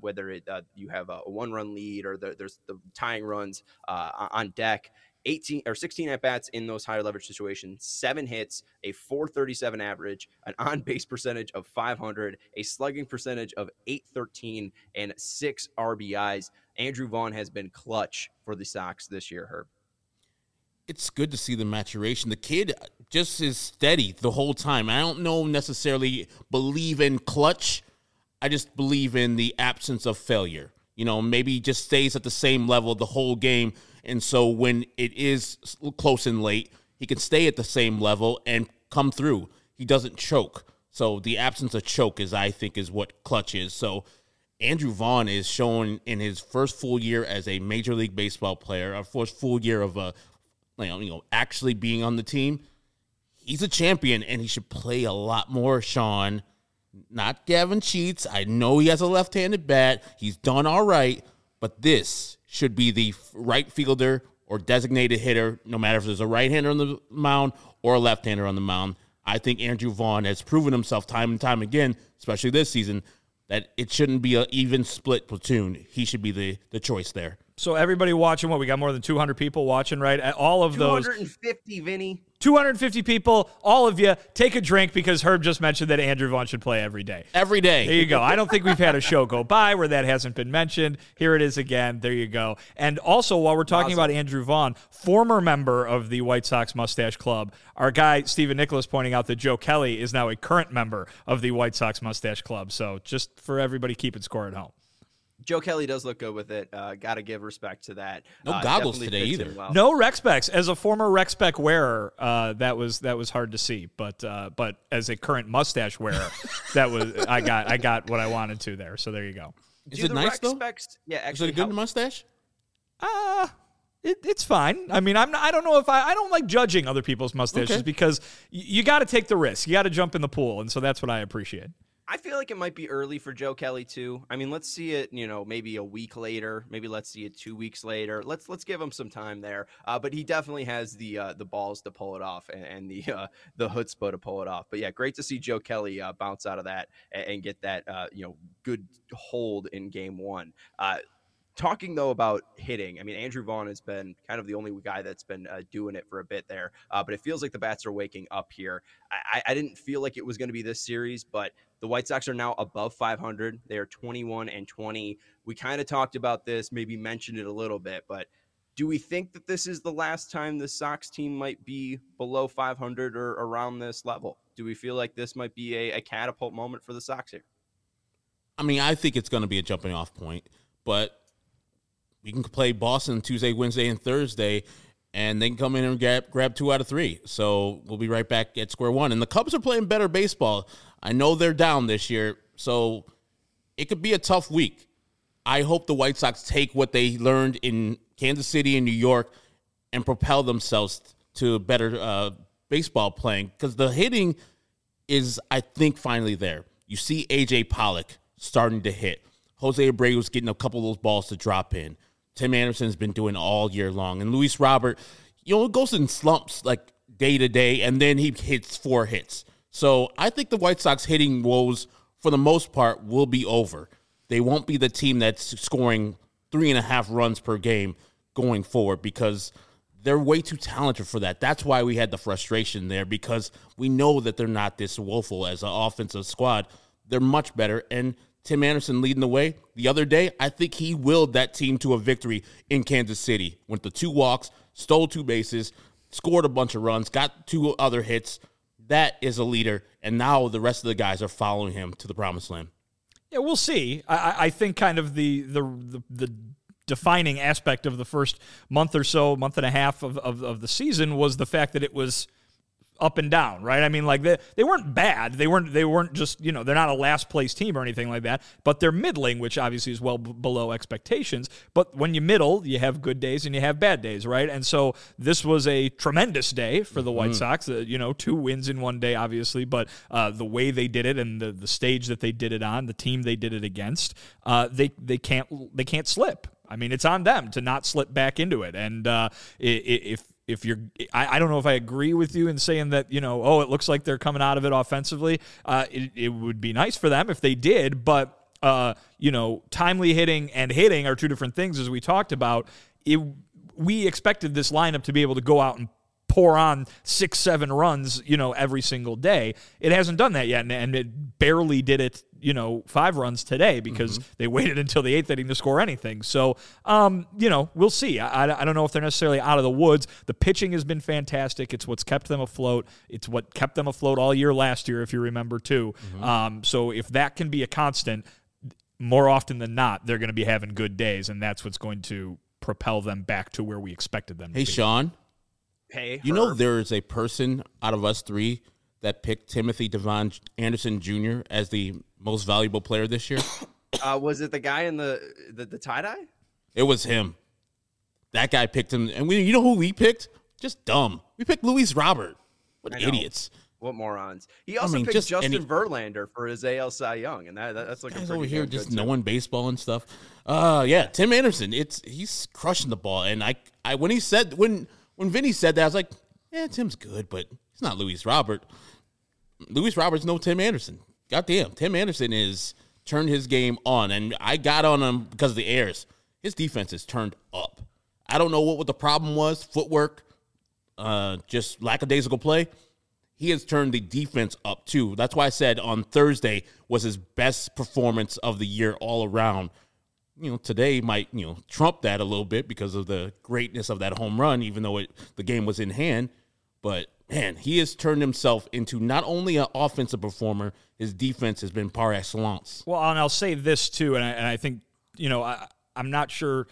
you have a one-run lead or there's the tying runs on deck. 18 or 16 at-bats in those higher leverage situations, 7 hits, a 437 average, an on-base percentage of 500, a slugging percentage of 813, and 6 RBIs. Andrew Vaughn has been clutch for the Sox this year, Herb. It's good to see the maturation. The kid just is steady the whole time. I don't necessarily believe in clutch. I just believe in the absence of failure. Maybe he just stays at the same level the whole game. And so when it is close and late, he can stay at the same level and come through. He doesn't choke. So the absence of choke I think is what clutch is. So Andrew Vaughn is showing in his first full year as a Major League Baseball player, our first full year of actually being on the team. He's a champion, and he should play a lot more, Sean. Not Gavin Sheets. I know he has a left-handed bat. He's done all right, but this should be the right fielder or designated hitter, no matter if there's a right-hander on the mound or a left-hander on the mound. I think Andrew Vaughn has proven himself time and time again, especially this season, that it shouldn't be an even split platoon. He should be the choice there. So everybody watching, we got more than 200 people watching, right? All of those. 250, Vinny. 250 people, all of you, take a drink because Herb just mentioned that Andrew Vaughn should play every day. Every day. There you go. I don't think we've had a show go by where that hasn't been mentioned. Here it is again. There you go. And also, while we're talking about Andrew Vaughn, former member of the White Sox Mustache Club, our guy, Stephen Nicholas, pointing out that Joe Kelly is now a current member of the White Sox Mustache Club. So just for everybody keeping score at home. Joe Kelly does look good with it. Got to give respect to that. No goggles today either. Well. No rec specs. As a former rec spec wearer, that was hard to see. But as a current mustache wearer, I got what I wanted to there. So there you go. Is it nice though? Yeah, actually, is it a good mustache? It's fine. I mean, I don't know if I don't like judging other people's mustaches because you got to take the risk. You got to jump in the pool, and so that's what I appreciate. I feel like it might be early for Joe Kelly too. I mean, let's see it, maybe a week later. Maybe let's see it 2 weeks later. Let's give him some time there. But he definitely has the balls to pull it off and the chutzpah to pull it off. But yeah, great to see Joe Kelly bounce out of that and get that good hold in game one. Talking, though, about hitting, I mean, Andrew Vaughn has been kind of the only guy that's been doing it for a bit there. But it feels like the bats are waking up here. I didn't feel like it was going to be this series, but the White Sox are now above 500. They are 21-20. We kind of talked about this, maybe mentioned it a little bit, but do we think that this is the last time the Sox team might be below 500 or around this level? Do we feel like this might be a catapult moment for the Sox here? I mean, I think it's going to be a jumping off point, but we can play Boston Tuesday, Wednesday, and Thursday, and they can come in and grab 2 out of 3. So we'll be right back at square one. And the Cubs are playing better baseball. I know they're down this year, so it could be a tough week. I hope the White Sox take what they learned in Kansas City and New York and propel themselves to better baseball playing, because the hitting is, I think, finally there. You see A.J. Pollock starting to hit. Jose Abreu's getting a couple of those balls to drop in. Tim Anderson's been doing all year long. And Luis Robert, it goes in slumps like day to day, and then he hits 4 hits. So I think the White Sox hitting woes, for the most part, will be over. They won't be the team that's scoring 3.5 runs per game going forward, because they're way too talented for that. That's why we had the frustration there, because we know that they're not this woeful as an offensive squad. They're much better, and Tim Anderson leading the way. The other day, I think he willed that team to a victory in Kansas City. Went the 2 walks, stole 2 bases, scored a bunch of runs, got 2 other hits. That is a leader, and now the rest of the guys are following him to the promised land. Yeah, we'll see. I think kind of the defining aspect of the first month or so, month and a half of the season was the fact that it was up and down, right? I mean, like they weren't bad. They weren't just, they're not a last place team or anything like that, but they're middling, which obviously is well below expectations. But when you middle, you have good days and you have bad days, right? And so this was a tremendous day for the White Sox. 2 wins in one day, obviously, but the way they did it and the stage that they did it on, the team they did it against, they can't slip. I mean, it's on them to not slip back into it. And if you're, I don't know if I agree with you in saying that, it looks like they're coming out of it offensively. It would be nice for them if they did, but timely hitting and hitting are two different things, as we talked about. We expected this lineup to be able to go out and pour on 6-7 runs, every single day. It hasn't done that yet, and it barely did it, 5 runs today because they waited until the 8th inning to score anything. So, we'll see. I don't know if they're necessarily out of the woods. The pitching has been fantastic. It's what's kept them afloat. It's what kept them afloat all year last year, if you remember, too. So if that can be a constant, more often than not, they're going to be having good days, and that's what's going to propel them back to where we expected them to be. Hey, Sean. Hey, you know there is a person out of us three that picked Timothy Devon Anderson Jr. as the most valuable player this year? Was it the guy in the tie-dye? It was him. That guy picked him. And you know who we picked? Just dumb. We picked Luis Robert. What idiots. What morons. He also picked Justin Verlander for his AL Cy Young, and that's like guys over here just knowing baseball and stuff. Tim Anderson. He's crushing the ball. And when Vinny said that, I was like, yeah, Tim's good, but he's not Luis Robert. Luis Robert's no Tim Anderson. Goddamn, Tim Anderson is turned his game on, and I got on him because of the errors. His defense is turned up. I don't know what the problem was, footwork, just lackadaisical play. He has turned the defense up, too. That's why I said on Thursday was his best performance of the year all around. Today might, trump that a little bit because of the greatness of that home run, even though the game was in hand. But, man, he has turned himself into not only an offensive performer, his defense has been par excellence. Well, and I'll say this, too, and I think, I'm not sure.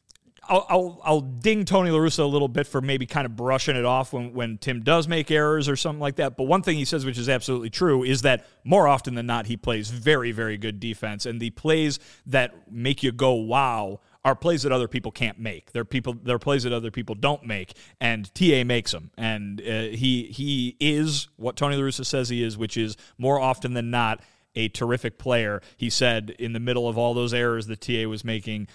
I'll ding Tony La Russa a little bit for maybe kind of brushing it off when Tim does make errors or something like that. But one thing he says, which is absolutely true, is that more often than not, he plays very, very good defense. And the plays that make you go, wow, are plays that other people can't make. They're plays that other people don't make. And TA makes them. And he is what Tony La Russa says he is, which is more often than not a terrific player. He said in the middle of all those errors that TA was making,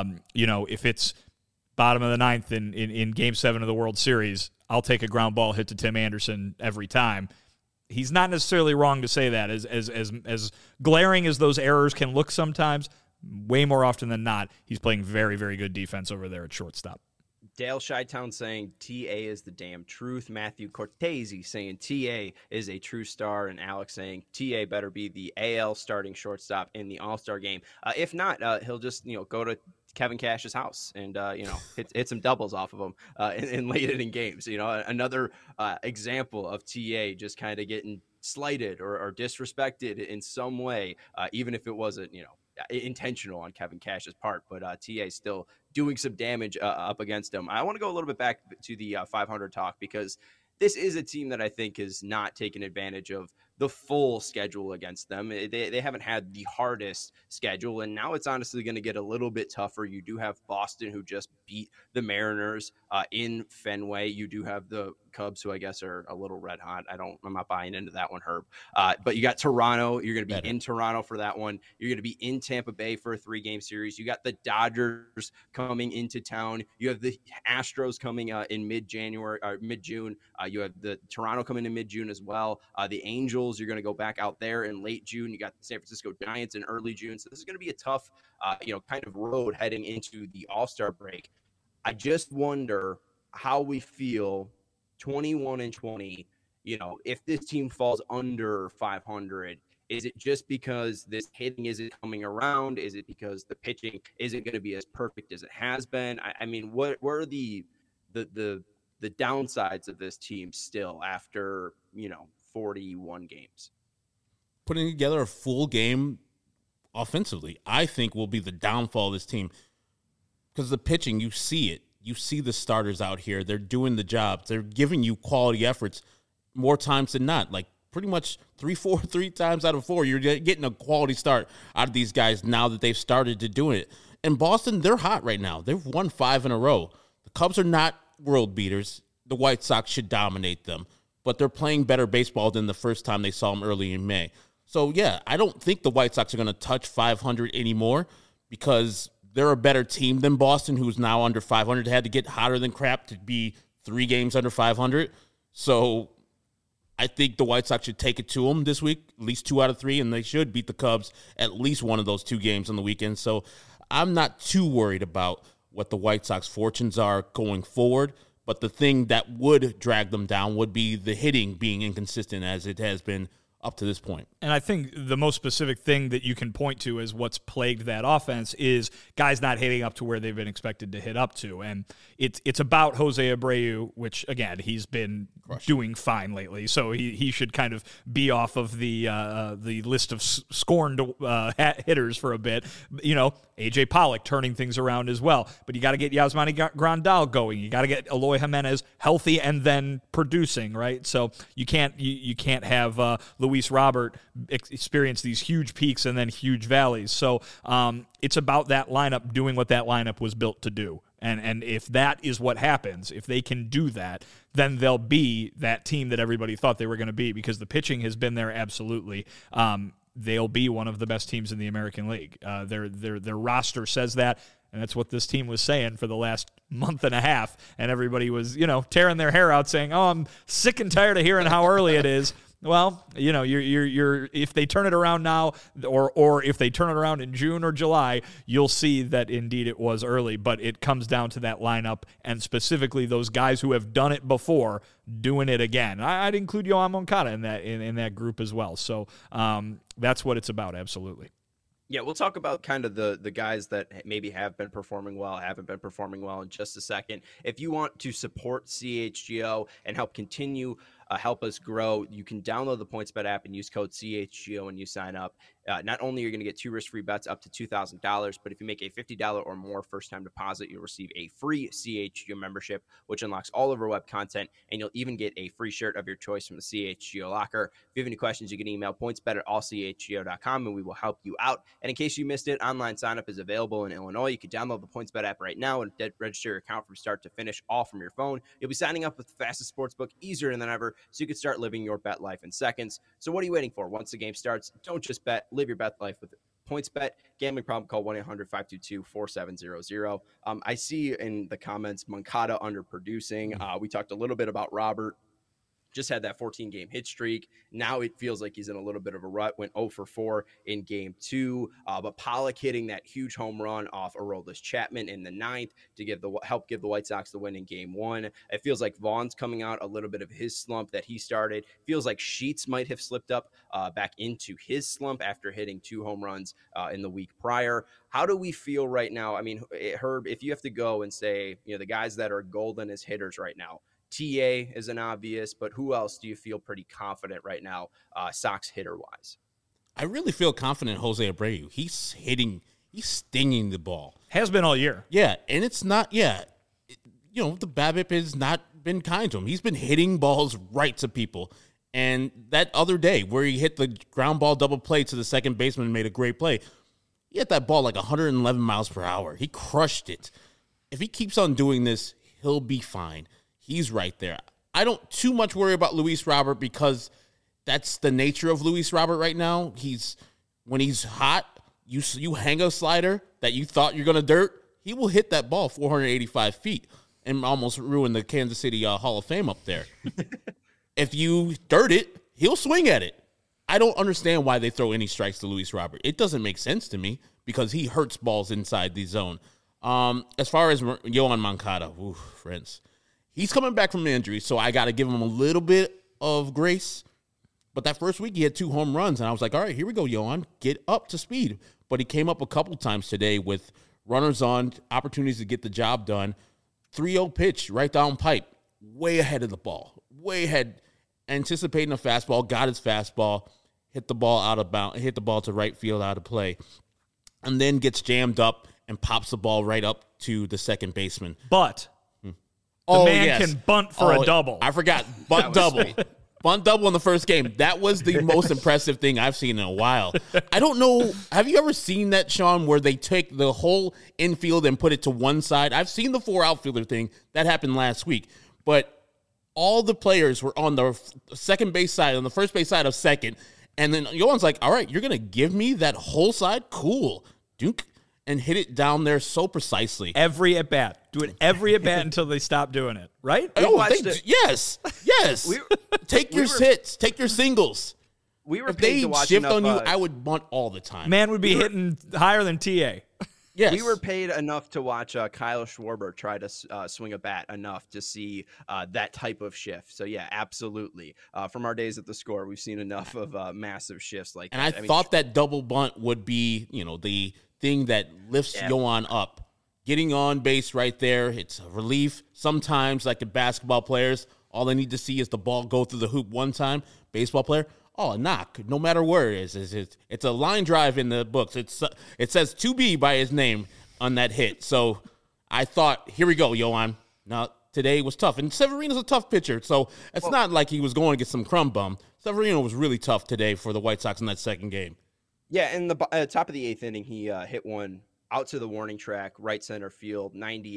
if it's bottom of the ninth in Game 7 of the World Series, I'll take a ground ball hit to Tim Anderson every time. He's not necessarily wrong to say that. As glaring as those errors can look sometimes, way more often than not, he's playing very, very good defense over there at shortstop. Dale Shytown saying TA is the damn truth. Matthew Cortese saying TA is a true star. And Alex saying TA better be the AL starting shortstop in the All-Star game. If not, he'll just go to Kevin Cash's house and hit some doubles off of him in late inning games. Another example of TA just kind of getting slighted or disrespected in some way, even if it wasn't intentional on Kevin Cash's part. But TA still doing some damage up against him. I want to go a little bit back to the 500 talk, because this is a team that I think has not taken advantage of the full schedule against them. They haven't had the hardest schedule, and now it's honestly going to get a little bit tougher. You do have Boston, who just beat the Mariners in Fenway. You do have the Cubs, who I guess are a little red hot. I'm not buying into that one, Herb. But you got Toronto. You're going to be in Toronto for that one. You're going to be in Tampa Bay for a 3-game series. You got the Dodgers coming into town. You have the Astros coming in mid-January or mid-June. You have the Toronto coming in mid-June as well. The Angels, you're going to go back out there in late June. You got the San Francisco Giants in early June. So this is going to be a tough, kind of road heading into the All-Star break. I just wonder how we feel 21-20, if this team falls under 500. Is it just because this hitting isn't coming around? Is it because the pitching isn't going to be as perfect as it has been? I mean, what are the downsides of this team still after, 41 games? Putting together a full game offensively, I think, will be the downfall of this team. Because the pitching, you see it. You see the starters out here. They're doing the job. They're giving you quality efforts more times than not. Like pretty much 3 times out of 4, you're getting a quality start out of these guys now that they've started to do it. And Boston, they're hot right now. They've won 5 in a row. The Cubs are not world beaters. The White Sox should dominate them. But they're playing better baseball than the first time they saw them early in May. So, yeah, I don't think the White Sox are going to touch 500 anymore because they're a better team than Boston, who's now under 500. They had to get hotter than crap to be 3 games under 500. So I think the White Sox should take it to them this week, at least 2 out of 3, and they should beat the Cubs at least one of those 2 games on the weekend. So I'm not too worried about what the White Sox fortunes are going forward, but the thing that would drag them down would be the hitting being inconsistent as it has been up to this point. And I think the most specific thing that you can point to as what's plagued that offense is guys not hitting up to where they've been expected to hit up to. And it's about Jose Abreu, which, again, he's been doing fine lately. So he should kind of be off of the list of scorned hitters for a bit. You know, A.J. Pollock turning things around as well. But you got to get Yasmani Grandal going. You got to get Eloy Jimenez healthy and then producing, right? So you can't have Luis Robert experience these huge peaks and then huge valleys. So it's about that lineup doing what that lineup was built to do. And if that is what happens, if they can do that, then they'll be that team that everybody thought they were going to be, because the pitching has been there absolutely. They'll be one of the best teams in the American League. Their roster says that, and that's what this team was saying for the last month and a half. And everybody was, tearing their hair out saying, "Oh, I'm sick and tired of hearing how early it is." Well, you're if they turn it around now, or if they turn it around in June or July, you'll see that indeed it was early. But it comes down to that lineup, and specifically those guys who have done it before doing it again. I'd include Yoan Moncada in that group as well. So that's what it's about, absolutely. Yeah, we'll talk about kind of the guys that maybe have been performing well, haven't been performing well in just a second. If you want to support CHGO and help continue, help us grow, you can download the PointsBet app and use code CHGO when you sign up. Not only are you going to get 2 risk-free bets up to $2,000, but if you make a $50 or more first-time deposit, you'll receive a free CHGO membership, which unlocks all of our web content, and you'll even get a free shirt of your choice from the CHGO locker. If you have any questions, you can email pointsbet@allchgo.com, and we will help you out. And in case you missed it, online sign-up is available in Illinois. You can download the PointsBet app right now and register your account from start to finish, all from your phone. You'll be signing up with the fastest sportsbook, easier than ever, so you can start living your bet life in seconds. So what are you waiting for? Once the game starts, don't just bet. Live your bet life with PointsBet. Gambling problem, call 1-800-522-4700. I see in the comments Moncada underproducing. We talked a little bit about Robert. Just had that 14-game hit streak. Now it feels like he's in a little bit of a rut. Went 0 for 4 in Game 2. But Pollock hitting that huge home run off Aroldis Chapman in the 9th to help give the White Sox the win in Game 1. It feels like Vaughn's coming out a little bit of his slump that he started. Feels like Sheets might have slipped up back into his slump after hitting 2 home runs in the week prior. How do we feel right now? I mean, Herb, if you have to go and say, the guys that are golden as hitters right now, TA is an obvious, but who else do you feel pretty confident right now, Sox hitter-wise? I really feel confident Jose Abreu. He's stinging the ball. Has been all year. Yeah, and it's not, the BABIP has not been kind to him. He's been hitting balls right to people. And that other day where he hit the ground ball double play to the second baseman and made a great play, he hit that ball like 111 miles per hour. He crushed it. If he keeps on doing this, he'll be fine. He's right there. I don't too much worry about Luis Robert because that's the nature of Luis Robert right now. When he's hot, you hang a slider that you thought you're going to dirt, he will hit that ball 485 feet and almost ruin the Kansas City Hall of Fame up there. If you dirt it, he'll swing at it. I don't understand why they throw any strikes to Luis Robert. It doesn't make sense to me because he hurts balls inside the zone. As far as Yoan Moncada, friends, he's coming back from an injury, so I got to give him a little bit of grace. But that first week, he had 2 home runs, and I was like, all right, here we go, Yoan. Get up to speed. But he came up a couple times today with runners on, opportunities to get the job done. 3-0 pitch right down pipe, way ahead of the ball, way ahead, anticipating a fastball, got his fastball, hit the ball out of bounds, hit the ball to right field out of play, and then gets jammed up and pops the ball right up to the second baseman. But the man can bunt for a double. I forgot. Bunt double. Bunt double in the first game. That was the most impressive thing I've seen in a while. I don't know. Have you ever seen that, Sean, where they take the whole infield and put it to one side? I've seen the 4 outfielder thing. That happened last week. But all the players were on the second base side, on the first base side of second. And then Yoan's like, all right, you're going to give me that whole side? Cool. Dunk. and hit it down there so precisely. Every at bat. Do it every at bat until they stop doing it, right? Yes. Take your hits, take your singles. We were if paid they to watch shift enough, on you, I would bunt all the time. Man would be hitting higher than TA. Yes. We were paid enough to watch Kyle Schwarber try to swing a bat enough to see that type of shift. So, yeah, absolutely. From our days at the Score, we've seen enough of massive shifts like and that. I thought that double bunt would be, the thing that lifts Yoan up. Getting on base right there, it's a relief. Sometimes, like the basketball players, all they need to see is the ball go through the hoop one time. Baseball player, a knock, no matter where it is. It's a line drive in the books. It says 2B by his name on that hit. So I thought, here we go, Yoan. Now, today was tough. And Severino's a tough pitcher, so it's not like he was going to get some crumb bum. Severino was really tough today for the White Sox in that second game. Yeah, in the top of the 8th inning, he hit one out to the warning track, right center field,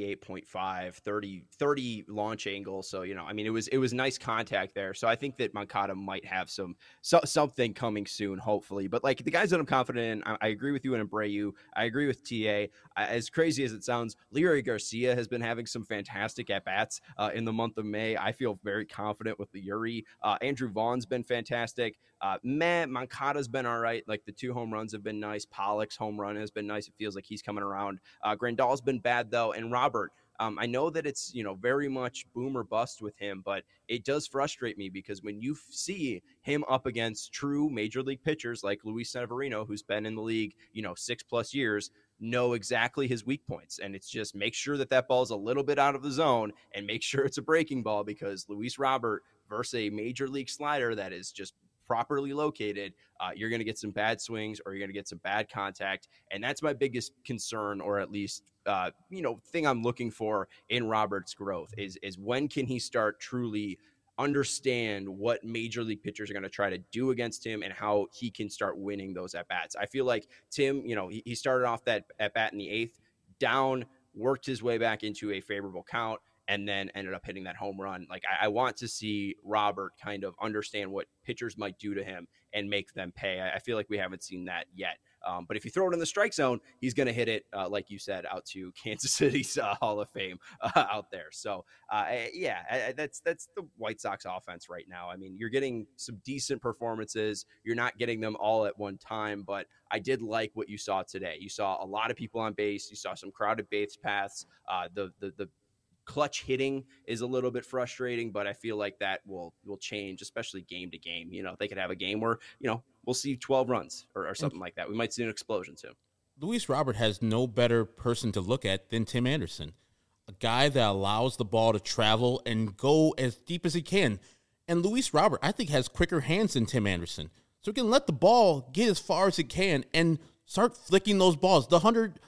98.5, 30 launch angle. So, it was nice contact there. So I think that Moncada might have something coming soon, hopefully. But like the guys that I'm confident in, I agree with you in Abreu. I agree with TA. As crazy as it sounds, Leury Garcia has been having some fantastic at-bats in the month of May. I feel very confident with Leury. Andrew Vaughn's been fantastic. Moncada's been all right. Like the 2 home runs have been nice. Pollock's home run has been nice. It feels like he's coming around. Grandal's been bad though. And Robert, I know that it's, very much boom or bust with him, but it does frustrate me because when you see him up against true major league pitchers like Luis Severino, who's been in the league, 6+ years, know exactly his weak points. And it's just make sure that ball's a little bit out of the zone and make sure it's a breaking ball, because Luis Robert versus a major league slider that is just properly located, you're going to get some bad swings or you're going to get some bad contact. And that's my biggest concern, or at least, thing I'm looking for in Robert's growth is when can he start truly understand what major league pitchers are going to try to do against him and how he can start winning those at-bats. I feel like Tim, he started off that at-bat in the 8th, down, worked his way back into a favorable count, and then ended up hitting that home run. Like I want to see Robert kind of understand what pitchers might do to him and make them pay. I feel like we haven't seen that yet. But if you throw it in the strike zone, he's going to hit it, like you said, out to Kansas City's Hall of Fame out there. So, that's the White Sox offense right now. I mean, you're getting some decent performances. You're not getting them all at one time, but I did like what you saw today. You saw a lot of people on base. You saw some crowded base paths. The clutch hitting is a little bit frustrating, but I feel like that will change, especially game to game. They could have a game where, we'll see 12 runs or something like that. We might see an explosion too. Luis Robert has no better person to look at than Tim Anderson, a guy that allows the ball to travel and go as deep as he can. And Luis Robert, I think, has quicker hands than Tim Anderson. So he can let the ball get as far as it can and start flicking those balls. The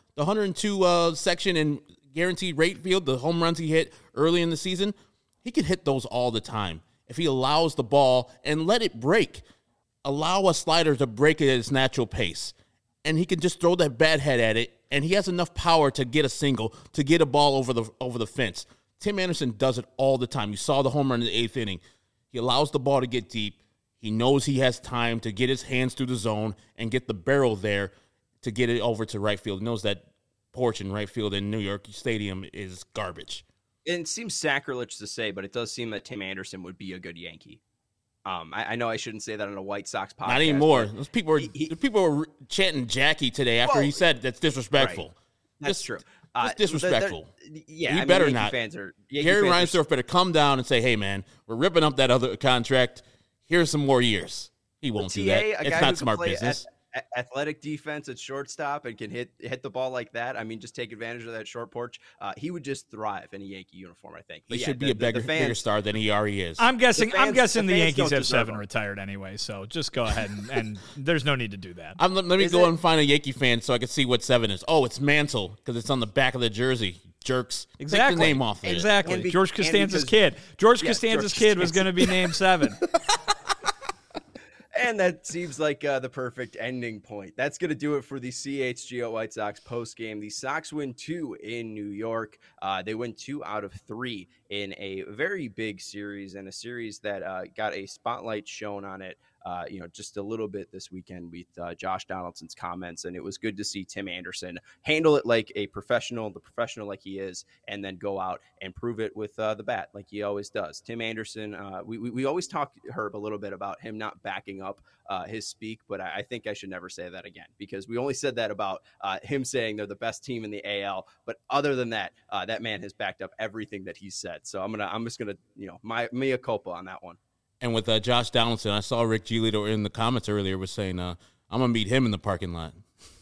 102 section and guaranteed rate field, the home runs he hit early in the season, he can hit those all the time if he allows the ball and let it break. Allow a slider to break it at its natural pace. And he can just throw that bat head at it, and he has enough power to get a single, to get a ball over the fence. Tim Anderson does it all the time. You saw the home run in the 8th inning. He allows the ball to get deep. He knows he has time to get his hands through the zone and get the barrel there to get it over to right field. He knows that porch in right field in New York Stadium is garbage. It seems sacrilege to say, but it does seem that Tim Anderson would be a good Yankee. I know I shouldn't say that on a White Sox podcast. Not anymore. Those people were chanting Jackie today after he said that's disrespectful. Right. That's true. It's disrespectful. Yeah, better Yankee not. Gary Reinsdorf better come down and say, "Hey, man, we're ripping up that other contract. Here's some more years." He won't do that. It's not smart business. Athletic defense at shortstop and can hit the ball like that. I mean, just take advantage of that short porch. He would just thrive in a Yankee uniform, I think. But he should be a bigger star than he already is. I'm guessing the Yankees have 7 retired anyway, so just go ahead and there's no need to do that. Let me go and find a Yankee fan so I can see what 7 is. Oh, it's Mantle because it's on the back of the jersey. Jerks. Exactly. Take the name off of exactly. it. George Costanza's kid. George Costanza's kid was going to be named 7. And that seems like the perfect ending point. That's going to do it for the CHGO White Sox post game. The Sox win 2 in New York. They win 2 out of 3 in a very big series, and a series that got a spotlight shown on it just a little bit this weekend with Josh Donaldson's comments. And it was good to see Tim Anderson handle it like a professional, the professional like he is, and then go out and prove it with the bat like he always does. Tim Anderson, we always talk, Herb, a little bit about him not backing up his speak, but I think I should never say that again, because we only said that about him saying they're the best team in the AL. But other than that, that man has backed up everything that he said. So I'm just gonna, my mea culpa on that one. And with Josh Donaldson, I saw Rick Giolito in the comments earlier was saying, I'm going to meet him in the parking lot.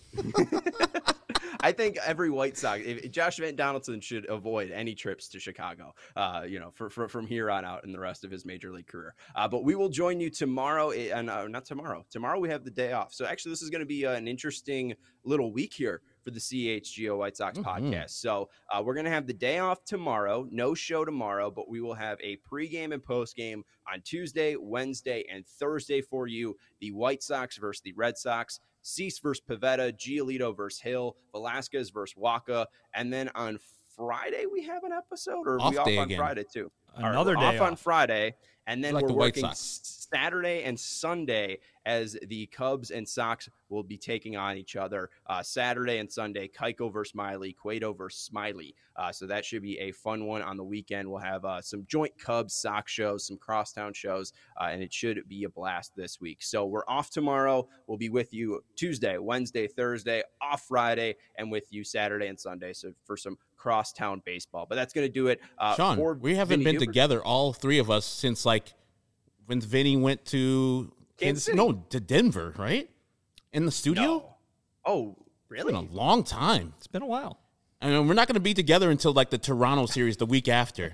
I think every White Sox, Josh Donaldson should avoid any trips to Chicago, from here on out in the rest of his major league career. But we will join you tomorrow, and not tomorrow. Tomorrow we have the day off. So actually, this is going to be an interesting little week here for the CHGO White Sox podcast. So we're going to have the day off tomorrow, no show tomorrow, but we will have a pregame and postgame on Tuesday, Wednesday, and Thursday for you. The White Sox versus the Red Sox, Cease versus Pivetta, Giolito versus Hill, Velasquez versus Waka. And then on Friday, we have an episode, or are we off on again. Friday too? Another day off on Friday. And then like we're working Saturday and Sunday as the Cubs and Sox will be taking on each other. Saturday and Sunday, Keiko versus Miley, Cueto versus Smiley. So that should be a fun one on the weekend. We'll have some joint Cubs Sox shows, some crosstown shows, and it should be a blast this week. So we're off tomorrow. We'll be with you Tuesday, Wednesday, Thursday, off Friday, and with you Saturday and Sunday. So for some crosstown baseball. But that's going to do it. Sean, we haven't been together, all three of us, since like when Vinny went to to Denver, right? In the studio? No. Oh, really? It's been a long time. It's been a while. I mean, we're not going to be together until like the Toronto series the week after.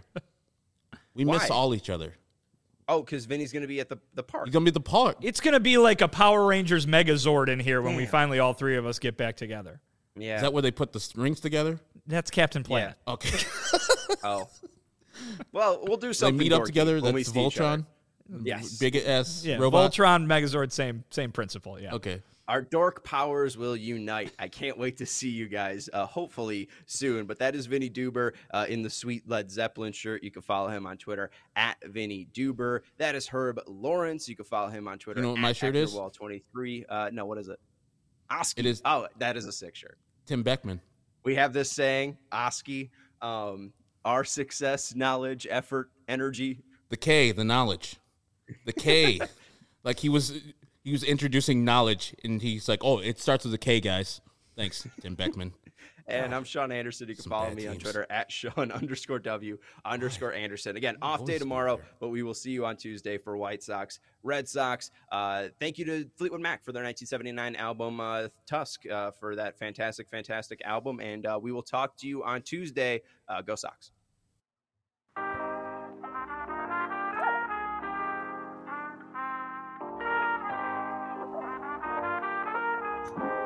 We miss all each other. Oh, because Vinny's going to be at the park. He's going to be at the park. It's going to be like a Power Rangers Megazord in here when we finally all three of us get back together. Yeah. Is that where they put the rings together? That's Captain Planet. Yeah. Okay. Oh. Well, we'll do something. They meet up together. That's Voltron. Yes. Big ass yeah, robot. Voltron, Megazord, same principle. Yeah. Okay. Our dork powers will unite. I can't wait to see you guys, hopefully soon. But that is Vinny Duber in the sweet Led Zeppelin shirt. You can follow him on Twitter at Vinny Duber. That is Herb Lawrence. You can follow him on Twitter. You know what my shirt is? Wall23. No, what is it? Oski. It is. Oh, that is a sick shirt. Tim Beckman. We have this saying, Oski, our success, knowledge, effort, energy. The K, the knowledge. The K. Like he was introducing knowledge, and he's like, oh, it starts with a K, guys. Thanks, Tim Beckman. And I'm Sean Anderson. You can follow me on Twitter at Sean_W_Anderson. Again, off day tomorrow, but we will see you on Tuesday for White Sox, Red Sox. Thank you to Fleetwood Mac for their 1979 album, Tusk, for that fantastic, fantastic album. And we will talk to you on Tuesday. Go Sox. you